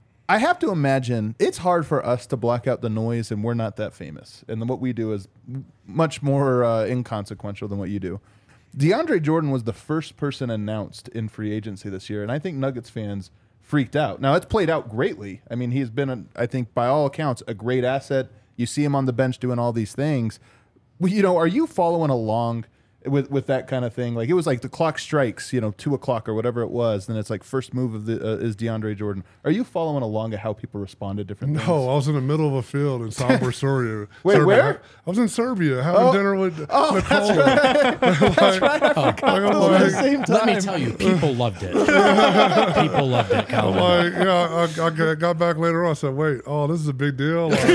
I have to imagine it's hard for us to block out the noise, and we're not that famous. And then what we do is much more uh, inconsequential than what you do. DeAndre Jordan was the first person announced in free agency this year, and I think Nuggets fans freaked out. Now, it's played out greatly. I mean, he's been, a, I think, by all accounts, a great asset. You see him on the bench doing all these things. Well, you know, are you following along with with that kind of thing? Like, it was like the clock strikes, you know, two o'clock or whatever it was. Then it's like first move of the uh, is DeAndre Jordan. Are you following along at how people respond to different things? No, I was in the middle of a field in Sombor, Serbia. Wait, Serbia. where? I was in Serbia having Oh. dinner with Oh, Nicole. That's right. I forgot I'm those at the like- same time. Let me tell you, people loved it. People loved it, Calvin. Like, yeah, I, I got- got back later on. I said, wait, oh, this is a big deal. Like,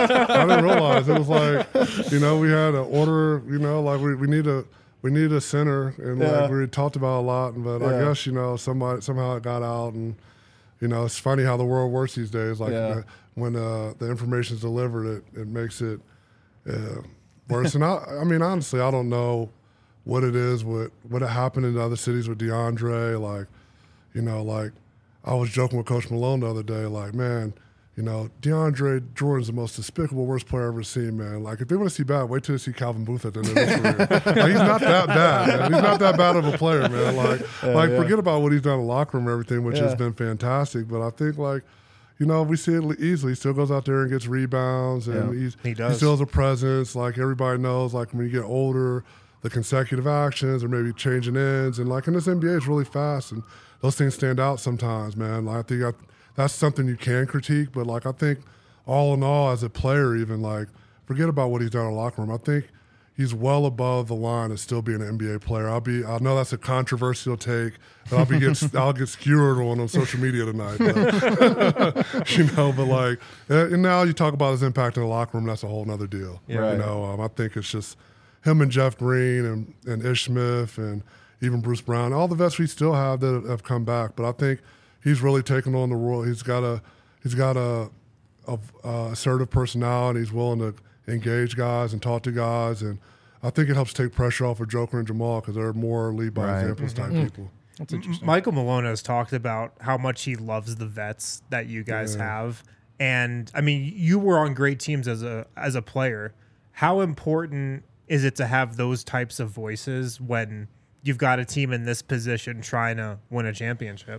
I didn't realize it was like, you know, we had an order, you know, like we, we need a we need a center, and Yeah. like we talked about a lot. But I Yeah. guess, you know, somebody somehow it got out, and you know, it's funny how the world works these days. Like Yeah. uh, when uh, the information is delivered, it it makes it uh, worse. And I, I mean, honestly, I don't know what it is, what what happened in other cities with DeAndre. Like, you know, like I was joking with Coach Malone the other day, like, man, you know, DeAndre Jordan's the most despicable, worst player I've ever seen, man. Like, if they want to see bad, wait till they see Calvin Booth at the end of his career. Like, he's not that bad, man. He's not that bad of a player, man. Like, like yeah. forget about what he's done in the locker room and everything, which Yeah. has been fantastic. But I think, like, you know, we see it easily. He still goes out there and gets rebounds, and Yeah. he's, He does. still has a presence. Like, everybody knows, like, when you get older, the consecutive actions or maybe changing ends. And, like, in this N B A, it's really fast, and those things stand out sometimes, man. Like, I think I, that's something you can critique, but, like, I think all in all, as a player, even, like, forget about what he's done in the locker room. I think he's well above the line of still being an N B A player. I'll be, I know that's a controversial take, and I'll be get, I'll get skewered on on social media tonight. But, you know, but like, and now you talk about his impact in the locker room. That's a whole nother deal. Right. You know, um, I think it's just him and Jeff Green and and Ish Smith and even Bruce Brown, all the vets we still have that have come back. But I think he's really taken on the role. He's got a, he's got a, a, a assertive personality. He's willing to engage guys and talk to guys, and I think it helps take pressure off of Joker and Jamal because they're more lead by Right. examples type people. That's interesting. Michael Malone has talked about how much he loves the vets that you guys have, and I mean, you were on great teams as a as a player. How important is it to have those types of voices when you've got a team in this position trying to win a championship?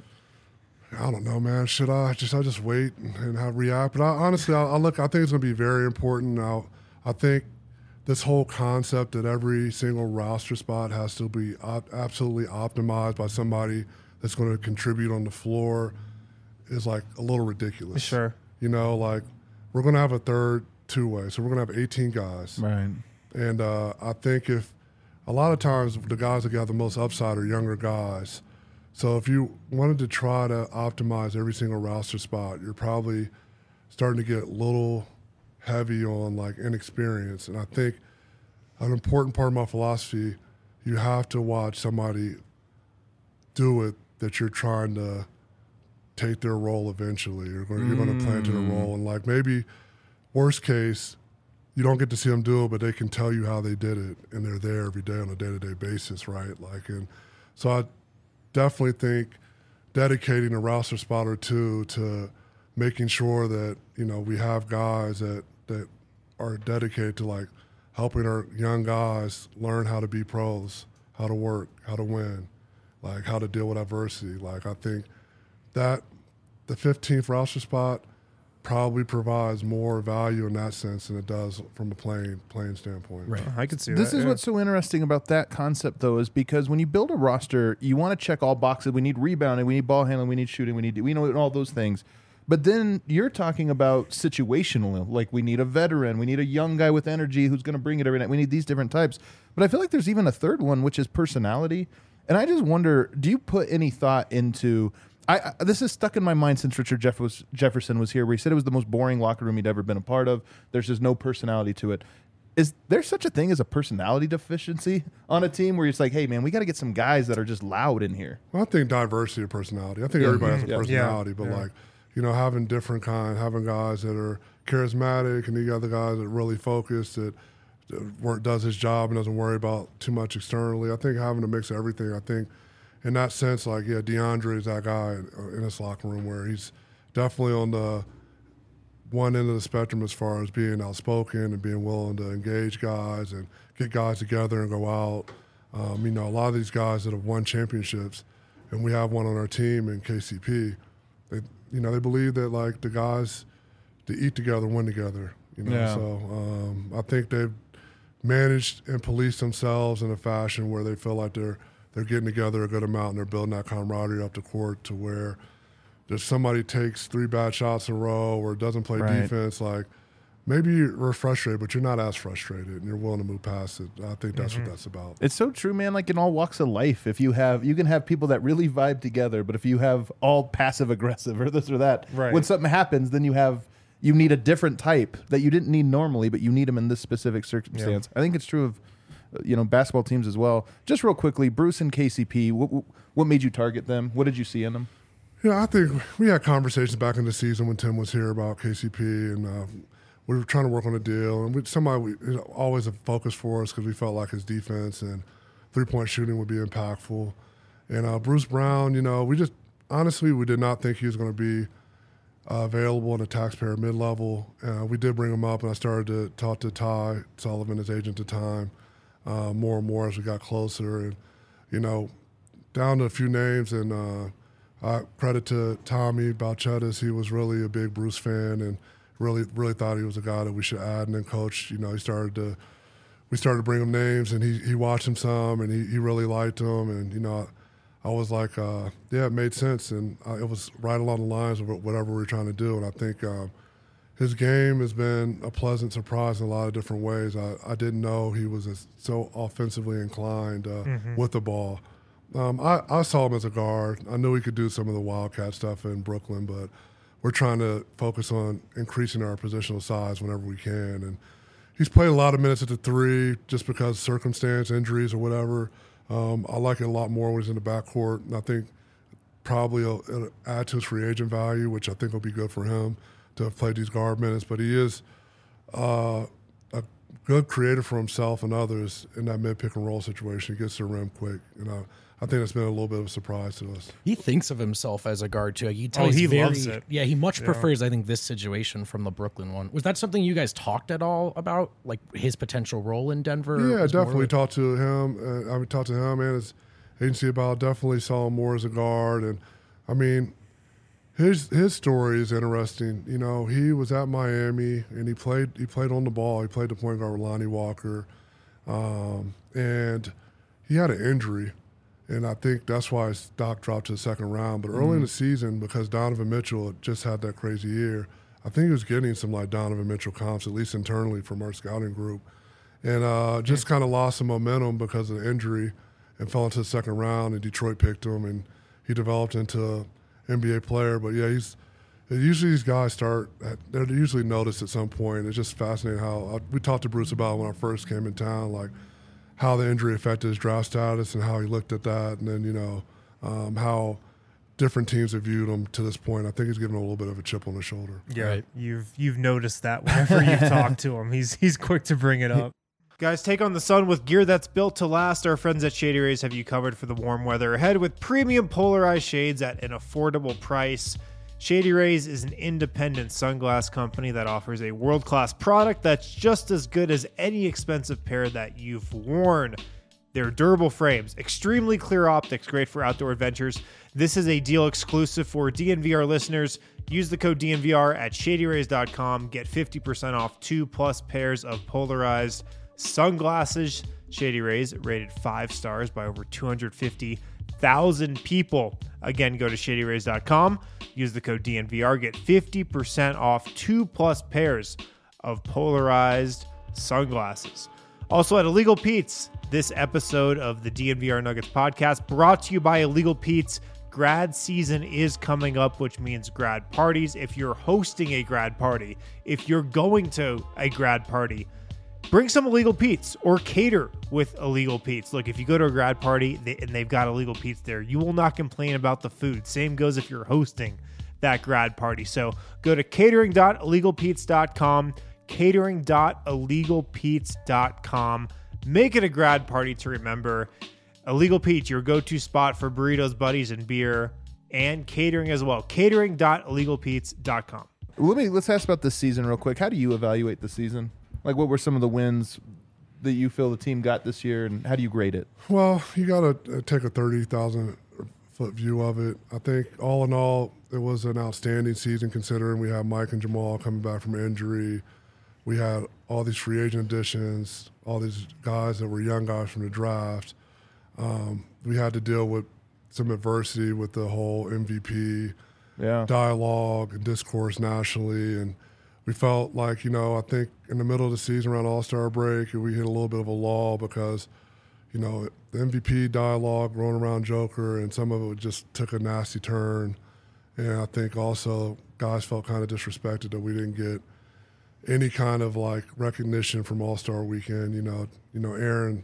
I don't know, man. Should I just I just wait and, and have react? But I, honestly, I, I look. I think it's going to be very important. Now, I think this whole concept that every single roster spot has to be op- absolutely optimized by somebody that's going to contribute on the floor is like a little ridiculous. Sure. You know, like we're going to have a third two way, so we're going to have eighteen guys. Right. And uh, I think if a lot of times the guys that got the most upside are younger guys. So if you wanted to try to optimize every single roster spot, you're probably starting to get a little heavy on like inexperience. And I think an important part of my philosophy, you have to watch somebody do it that you're trying to take their role eventually. You're going, you're going to play into their role. And like maybe worst case, you don't get to see them do it, but they can tell you how they did it, and they're there every day on a day-to-day basis, right? Like, and so I definitely think dedicating a roster spot or two to making sure that you know we have guys that that are dedicated to like helping our young guys learn how to be pros, how to work, how to win, like how to deal with adversity. Like I think that the fifteenth roster spot probably provides more value in that sense than it does from a playing playing standpoint. Right. I could see This that. is yeah. what's so interesting about that concept, though, is because when you build a roster, you want to check all boxes. We need rebounding, we need ball handling, we need shooting, we need we know all those things. But then you're talking about situational, like we need a veteran, we need a young guy with energy who's going to bring it every night. We need these different types. But I feel like there's even a third one, which is personality. And I just wonder, do you put any thought into? I, I this is stuck in my mind since Richard Jeff was, Jefferson was here, where he said it was the most boring locker room he'd ever been a part of. There's just no personality to it. Is there such a thing as a personality deficiency on a team where it's like, hey man, we got to get some guys that are just loud in here? Well, I think diversity of personality. I think Yeah. everybody has a Yeah. personality, Yeah. but Yeah. like, you know, having different kind, having guys that are charismatic, and you got the guys that are really focused, that, that work, does his job and doesn't worry about too much externally. I think having a mix of everything. I think in that sense, like, yeah, DeAndre is that guy in this locker room where he's definitely on the one end of the spectrum as far as being outspoken and being willing to engage guys and get guys together and go out. Um, you know, a lot of these guys that have won championships, and we have one on our team in K C P, they, you know, they believe that, like, the guys to eat together, win together. You know, Yeah. so um, I think they've managed and policed themselves in a fashion where they feel like they're they're getting together a good amount and they're building that camaraderie up the court to where if somebody takes three bad shots in a row or doesn't play Right. defense, like, maybe you're frustrated, but you're not as frustrated and you're willing to move past it. I think that's what that's about. It's so true, man. Like in all walks of life, if you have, you can have people that really vibe together, but if you have all passive aggressive or this or that, Right. when something happens, then you have, you need a different type that you didn't need normally, but you need them in this specific circumstance. I think it's true of, uh, you know, basketball teams as well. Just real quickly, Bruce and K C P, what, what made you target them? What did you see in them? Yeah, I think we had conversations back in the season when Tim was here about K C P, and uh, we were trying to work on a deal. And we, somebody we, it was always a focus for us because we felt like his defense and three-point shooting would be impactful. And uh, Bruce Brown, you know, we just honestly we did not think he was going to be uh, available in the taxpayer mid-level. Uh, we did bring him up, and I started to talk to Ty Sullivan, his agent at the time, uh, more and more as we got closer. And you know, down to a few names and. Uh, Uh, credit to Tommy Balchetis. He was really a big Bruce fan and really, really thought he was a guy that we should add. And then coach, you know, he started to, we started to bring him names, and he, he watched him some, and he, he really liked him. And, you know, I, I was like, uh, yeah, it made sense. And uh, it was right along the lines of whatever we were trying to do. And I think uh, his game has been a pleasant surprise in a lot of different ways. I, I didn't know he was as, so offensively inclined uh, Mm-hmm. with the ball. Um, I, I saw him as a guard. I knew he could do some of the Wildcat stuff in Brooklyn, but we're trying to focus on increasing our positional size whenever we can. And he's played a lot of minutes at the three just because circumstance, injuries, or whatever. Um, I like it a lot more when he's in the backcourt. And I think probably it'll, it'll add to his free agent value, which I think will be good for him to have played these guard minutes. But he is uh, a good creator for himself and others in that mid-pick and roll situation. He gets to the rim quick. You know, I think that's been a little bit of a surprise to us. He thinks of himself as a guard too. You tell Oh, he's he very- loves it. Yeah, he much prefers, I think, this situation from the Brooklyn one. Was that something you guys talked at all about, like his potential role in Denver? Yeah, It was more definitely like- talked to him. Uh, I mean, talked to him and his agency about. Definitely saw him more as a guard, and I mean, his his story is interesting. You know, he was at Miami and he played he played on the ball. He played the point guard with Lonnie Walker, um, and he had an injury, and I think that's why his stock dropped to the second round. But early in the season, because Donovan Mitchell had just had that crazy year, I think he was getting some like Donovan Mitchell comps, at least internally from our scouting group. And uh, just kind of lost some momentum because of the injury and fell into the second round, and Detroit picked him, and he developed into an N B A player. But, yeah, he's usually these guys start – they're usually noticed at some point. It's just fascinating how – we talked to Bruce about when I first came in town, like how the injury affected his draft status and how he looked at that, and then, you know, um, how different teams have viewed him to this point. I think he's given a little bit of a chip on his shoulder. Yeah, Right. you've you've noticed that whenever you've talked to him, he's he's quick to bring it up. Guys, take on the sun with gear that's built to last. Our friends at Shady Rays have you covered for the warm weather ahead with premium polarized shades at an affordable price. Shady Rays is an independent sunglass company that offers a world-class product that's just as good as any expensive pair that you've worn. They're durable frames, extremely clear optics, great for outdoor adventures. This is a deal exclusive for D N V R listeners. Use the code D N V R at shady rays dot com. Get fifty percent off two plus pairs of polarized sunglasses. Shady Rays rated five stars by over two hundred fifty thousand people. Again, go to shady rays dot com. Use the code D N V R. Get fifty percent off two plus pairs of polarized sunglasses. Also at Illegal Pete's, this episode of the D N V R Nuggets podcast brought to you by Illegal Pete's. Grad season is coming up, which means grad parties. If you're hosting a grad party, if you're going to a grad party, bring some Illegal Pete's or cater with Illegal Pete's. Look, if you go to a grad party and they've got Illegal Pete's there, you will not complain about the food. Same goes if you're hosting that grad party. So go to catering dot illegal pete's dot com, catering dot illegal pete's dot com. Make it a grad party to remember. Illegal Pete's, your go-to spot for burritos, buddies, and beer, and catering as well. catering dot illegal pete's dot com. Let me let's ask about this season real quick. How do you evaluate the season? Like, what were some of the wins that you feel the team got this year, and how do you grade it? Well, you got to take a thirty thousand foot view of it. I think all in all, it was an outstanding season considering we had Mike and Jamal coming back from injury. We had all these free agent additions, all these guys that were young guys from the draft. Um, we had to deal with some adversity with the whole M V P Yeah. dialogue and discourse nationally. And we felt like, you know, I think in the middle of the season around All-Star break, we hit a little bit of a lull because, you know, the M V P dialogue rolling around Joker and some of it just took a nasty turn. And I think also guys felt kind of disrespected that we didn't get any kind of like recognition from All-Star weekend. You know, you know, Aaron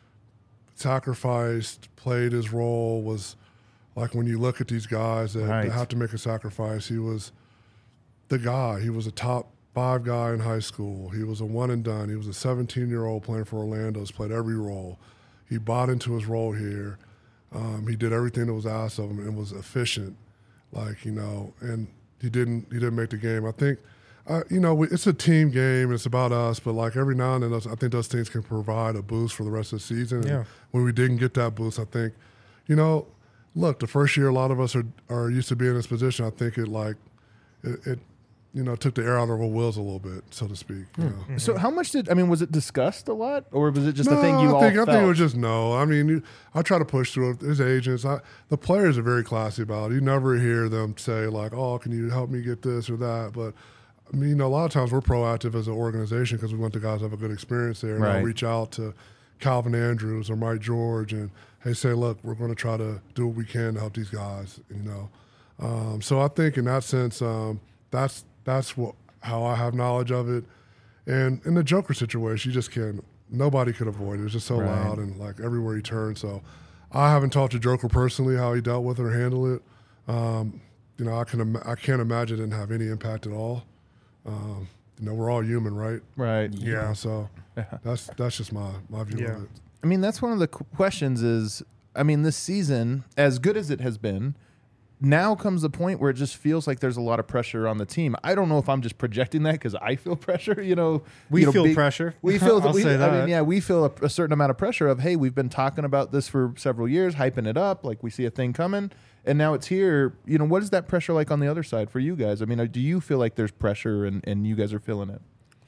sacrificed, played his role, was like when you look at these guys that, Right. that have to make a sacrifice, he was the guy. He was a top five guy in high school. He was a one and done. He was a seventeen-year-old playing for Orlando. He's played every role. He bought into his role here. Um, he did everything that was asked of him and was efficient, like, you know, and he didn't he didn't make the game. I think, uh, you know, we, it's a team game. And it's about us, but like every now and then, those, I think those things can provide a boost for the rest of the season. Yeah. And when we didn't get that boost, I think, you know, look, the first year a lot of us are, are used to being in this position. I think it like it, it you know, took the air out of our wheels a little bit, so to speak. You know? Mm-hmm. So how much did, I mean, was it discussed a lot, or was it just No, a thing you I all think, felt? I think it was just no. I mean, you, I try to push through it. His agents, I, the players are very classy about it. You never hear them say like, "Oh, can you help me get this or that?" But I mean, you know, a lot of times we're proactive as an organization because we want the guys to have a good experience there. And Right. I'll reach out to Calvin Andrews or Mike George and hey, say, look, we're going to try to do what we can to help these guys. You know, um, so I think in that sense, um, that's that's what. how I have knowledge of it. And in the Joker situation, you just can't, nobody could avoid it. It was just so Right. loud and like everywhere he turned. So I haven't talked to Joker personally, how he dealt with it or handled it. Um, you know, I can, im- I can't imagine it didn't have any impact at all. Um, you know, we're all human, right? Right. You know, so that's, that's just my, my view Yeah. of it. I mean, that's one of the qu- questions is, I mean, this season, as good as it has been, now comes the point where it just feels like there's a lot of pressure on the team. I don't know if I'm just projecting that because I feel pressure. You know, We you know, feel big- pressure. We feel. I'll we, say I that. mean, yeah, we feel a, a certain amount of pressure of, hey, we've been talking about this for several years, hyping it up, like we see a thing coming, and now it's here. You know, what is that pressure like on the other side for you guys? I mean, uh, do you feel like there's pressure and, and you guys are feeling it?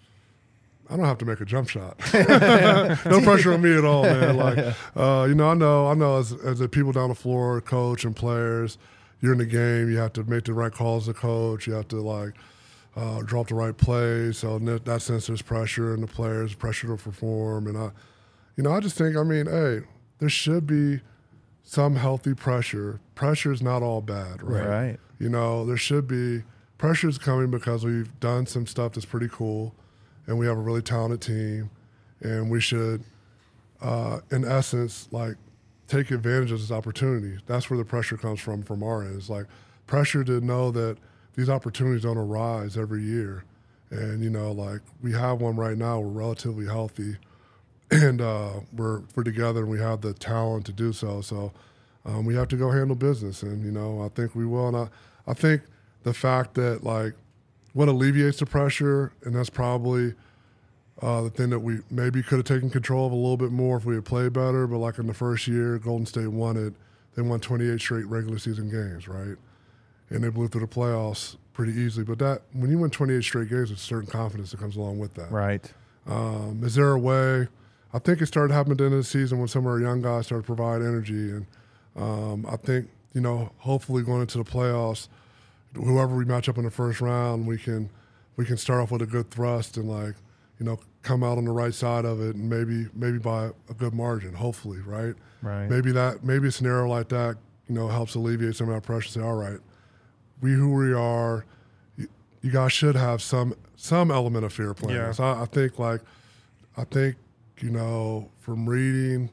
I don't have to make a jump shot. No pressure on me at all, man. Like, uh, you know, I know, I know as, as the people down the floor, coach and players, you're in the game. You have to make the right calls as a coach. You have to like uh, drop the right plays. So in that, that sense, there's pressure, and the players pressure to perform. And I, you know, I just think, I mean, hey, there should be some healthy pressure. Pressure is not all bad, right? Right. You know, there should be pressure is coming because we've done some stuff that's pretty cool, and we have a really talented team, and we should, uh, in essence, like take advantage of this opportunity. That's where the pressure comes from from our end. It's like pressure to know that these opportunities don't arise every year, and you know, like we have one right now. We're relatively healthy, and uh, we're we're together, and we have the talent to do so. So um, we have to go handle business, and you know, I think we will. And I, I think the fact that like what alleviates the pressure, and that's probably Uh, the thing that we maybe could have taken control of a little bit more if we had played better, but like in the first year, Golden State won it. They won twenty-eight straight regular season games, right? And they blew through the playoffs pretty easily. But that when you win twenty-eight straight games, there's a certain confidence that comes along with that. Right. Um, is there a way? I think it started happening at the end of the season when some of our young guys started to provide energy. And um, I think, you know, hopefully going into the playoffs, whoever we match up in the first round, we can we can start off with a good thrust and, like, you know, come out on the right side of it and maybe maybe by a good margin, hopefully, right? Right. Maybe that maybe a scenario like that, you know, helps alleviate some of that pressure. Say, all right, we who we are, you, you guys should have some some element of fear playing. Yeah. So I, I think like I think, you know, from reading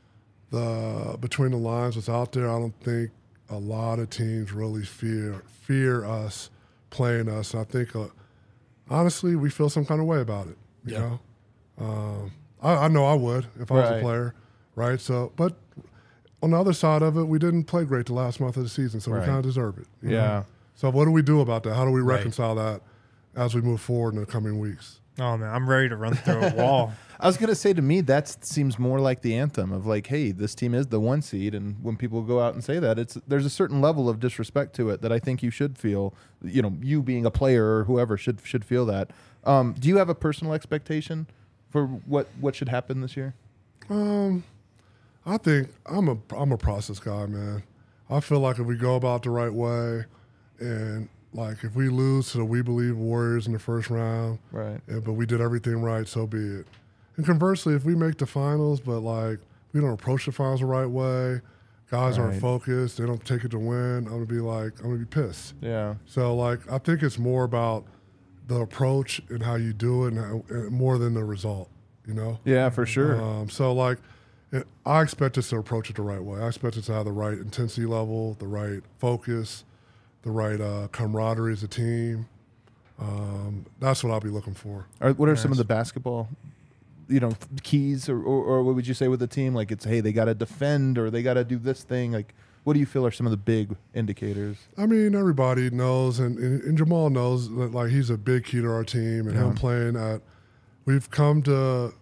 the between the lines what's out there, I don't think a lot of teams really fear fear us playing us. And I think uh, honestly, we feel some kind of way about it. You Yeah. know, um, I, I know I would if I was Right. a player, right? So, but on the other side of it, we didn't play great the last month of the season, so Right. we kind of deserve it. you Yeah. know? So, what do we do about that? How do we Right. reconcile that as we move forward in the coming weeks? Oh man, I'm ready to run through a wall. I was gonna say, to me, that seems more like the anthem of like, hey, this team is the one seed, and when people go out and say that, it's there's a certain level of disrespect to it that I think you should feel. You know, you being a player or whoever should should feel that. Um, do you have a personal expectation for what what should happen this year? Um, I think I'm a I'm a process guy, man. I feel like if we go about the right way, and like if we lose to the We Believe Warriors in the first round, Right. yeah, but we did everything right, so be it. And conversely, if we make the finals, but like we don't approach the finals the right way, guys Right. aren't focused, they don't take it to win, I'm gonna be like, I'm gonna be pissed. Yeah. So like, I think it's more about the approach and how you do it, and, how, and more than the result. You know. Yeah, for sure. Um, so like, it, I expect us to approach it the right way. I expect us to have the right intensity level, the right focus, the right uh, camaraderie as a team. Um, that's what I'll be looking for. Are, what are some of the basketball, you know, keys, or, or, or what would you say with the team? Like, it's, hey, they got to defend, or they got to do this thing. Like, what do you feel are some of the big indicators? I mean, everybody knows, and, and, and Jamal knows that like he's a big key to our team, and him playing at. We've come to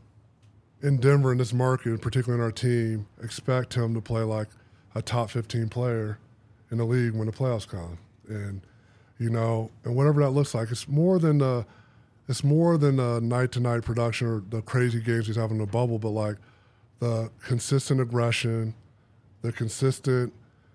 in Denver in this market, particularly in our team, expect him to play like a top fifteen player in the league when the playoffs come, and you know, and whatever that looks like, it's more than the, it's more than the night to night production or the crazy games he's having in the bubble, but like the consistent aggression, the consistent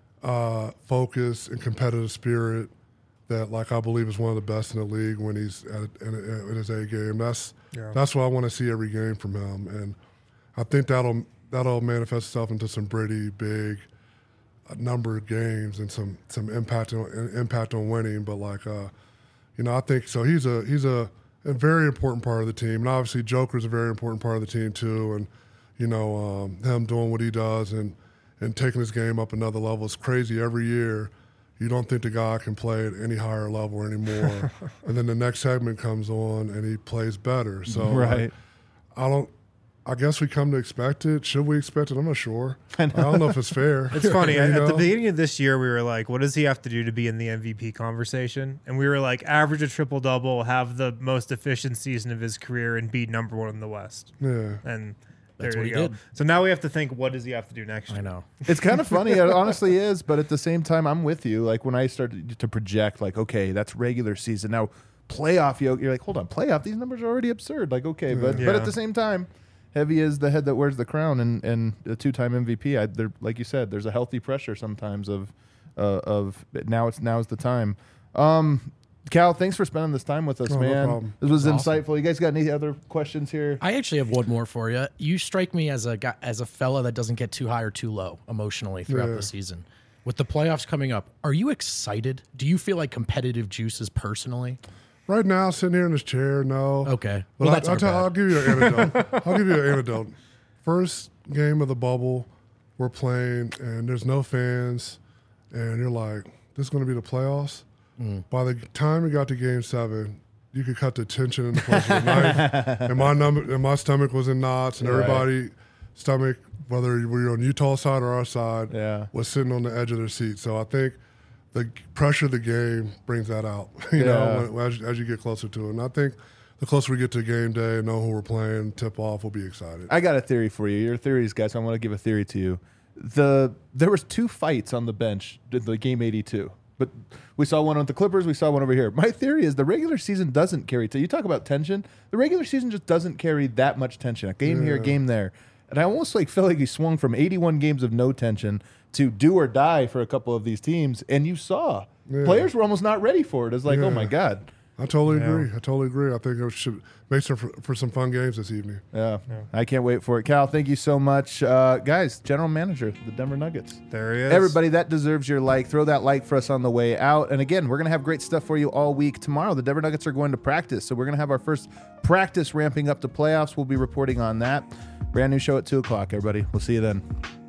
uh, focus and competitive spirit that, like, I believe is one of the best in the league when he's at, in, in his A game. That's Yeah. that's what I want to see every game from him, and I think that'll that'll manifest itself into some pretty big uh, number of games and some some impact on impact on winning. But like, uh, you know, I think so. He's a he's a, a very important part of the team, and obviously Joker's a very important part of the team too. And you know, um, him doing what he does and and taking his game up another level is crazy every year. You don't think the guy can play at any higher level anymore. And then the next segment comes on and he plays better. So Right. like, I don't, I guess we come to expect it. Should we expect it? I'm not sure. I, don't know if it's fair. It's funny. You At, at the know? beginning of this year, we were like, what does he have to do to be in the M V P conversation? And we were like, average a triple double, have the most efficient season of his career, and be number one in the West. Yeah. And there That's you what he go. did. So now we have to think, what does he have to do next year? I know. It's kind of funny. It honestly is. But at the same time, I'm with you. Like, when I started to project, like, okay, that's regular season. Now, playoff, you- you're like, hold on, playoff? These numbers are already absurd. Like, okay. But Yeah. but at the same time, Heavy is the head that wears the crown, and, and a two-time M V P. I, there, like you said, there's a healthy pressure sometimes of uh, of now it's now's the time. Um, Cal, thanks for spending this time with us, Oh, no man. problem. This was Awesome. insightful. You guys got any other questions here? I actually have one more for you. You strike me as a guy, as a fella that doesn't get too high or too low emotionally throughout Yeah. the season. With the playoffs coming up, are you excited? Do you feel like competitive juices personally? Right now, sitting here in this chair, no. Okay. But Well, I, that's I'll, our tell, bad. I'll give you an anecdote. I'll give you an anecdote. First game of the bubble, we're playing, and there's no fans, and you're like, this is going to be the playoffs? Mm. By the time we got to game seven, you could cut the tension in the place with a knife, and my, num- and my stomach was in knots, and Right. everybody stomach, whether you were on Utah side or our side, Yeah. was sitting on the edge of their seat. So I think the pressure of the game brings that out, you Yeah. know, when, as, as you get closer to it. And I think the closer we get to game day and know who we're playing, tip off, we'll be excited. I got a theory for you. Your theories, guys. So I want to give a theory to you. The there was two fights on the bench in the game eighty-two, but we saw one with the Clippers. We saw one over here. My theory is the regular season doesn't carry. So you talk about tension. The regular season just doesn't carry that much tension. A game yeah. here, a game there, and I almost like felt like he swung from eighty-one games of no tension to do or die for a couple of these teams, and you saw yeah. players were almost not ready for it. It's like, yeah. oh my god. I totally yeah. agree. I totally agree. I think it should make some for, for some fun games this evening. Yeah. yeah, I can't wait for it. Cal, thank you so much, uh, guys. General Manager, the Denver Nuggets. There he is. Everybody, that deserves your like. Throw that like for us on the way out. And again, we're gonna have great stuff for you all week. Tomorrow, the Denver Nuggets are going to practice, so we're gonna have our first practice ramping up to playoffs. We'll be reporting on that. Brand new show at two o'clock. Everybody, we'll see you then.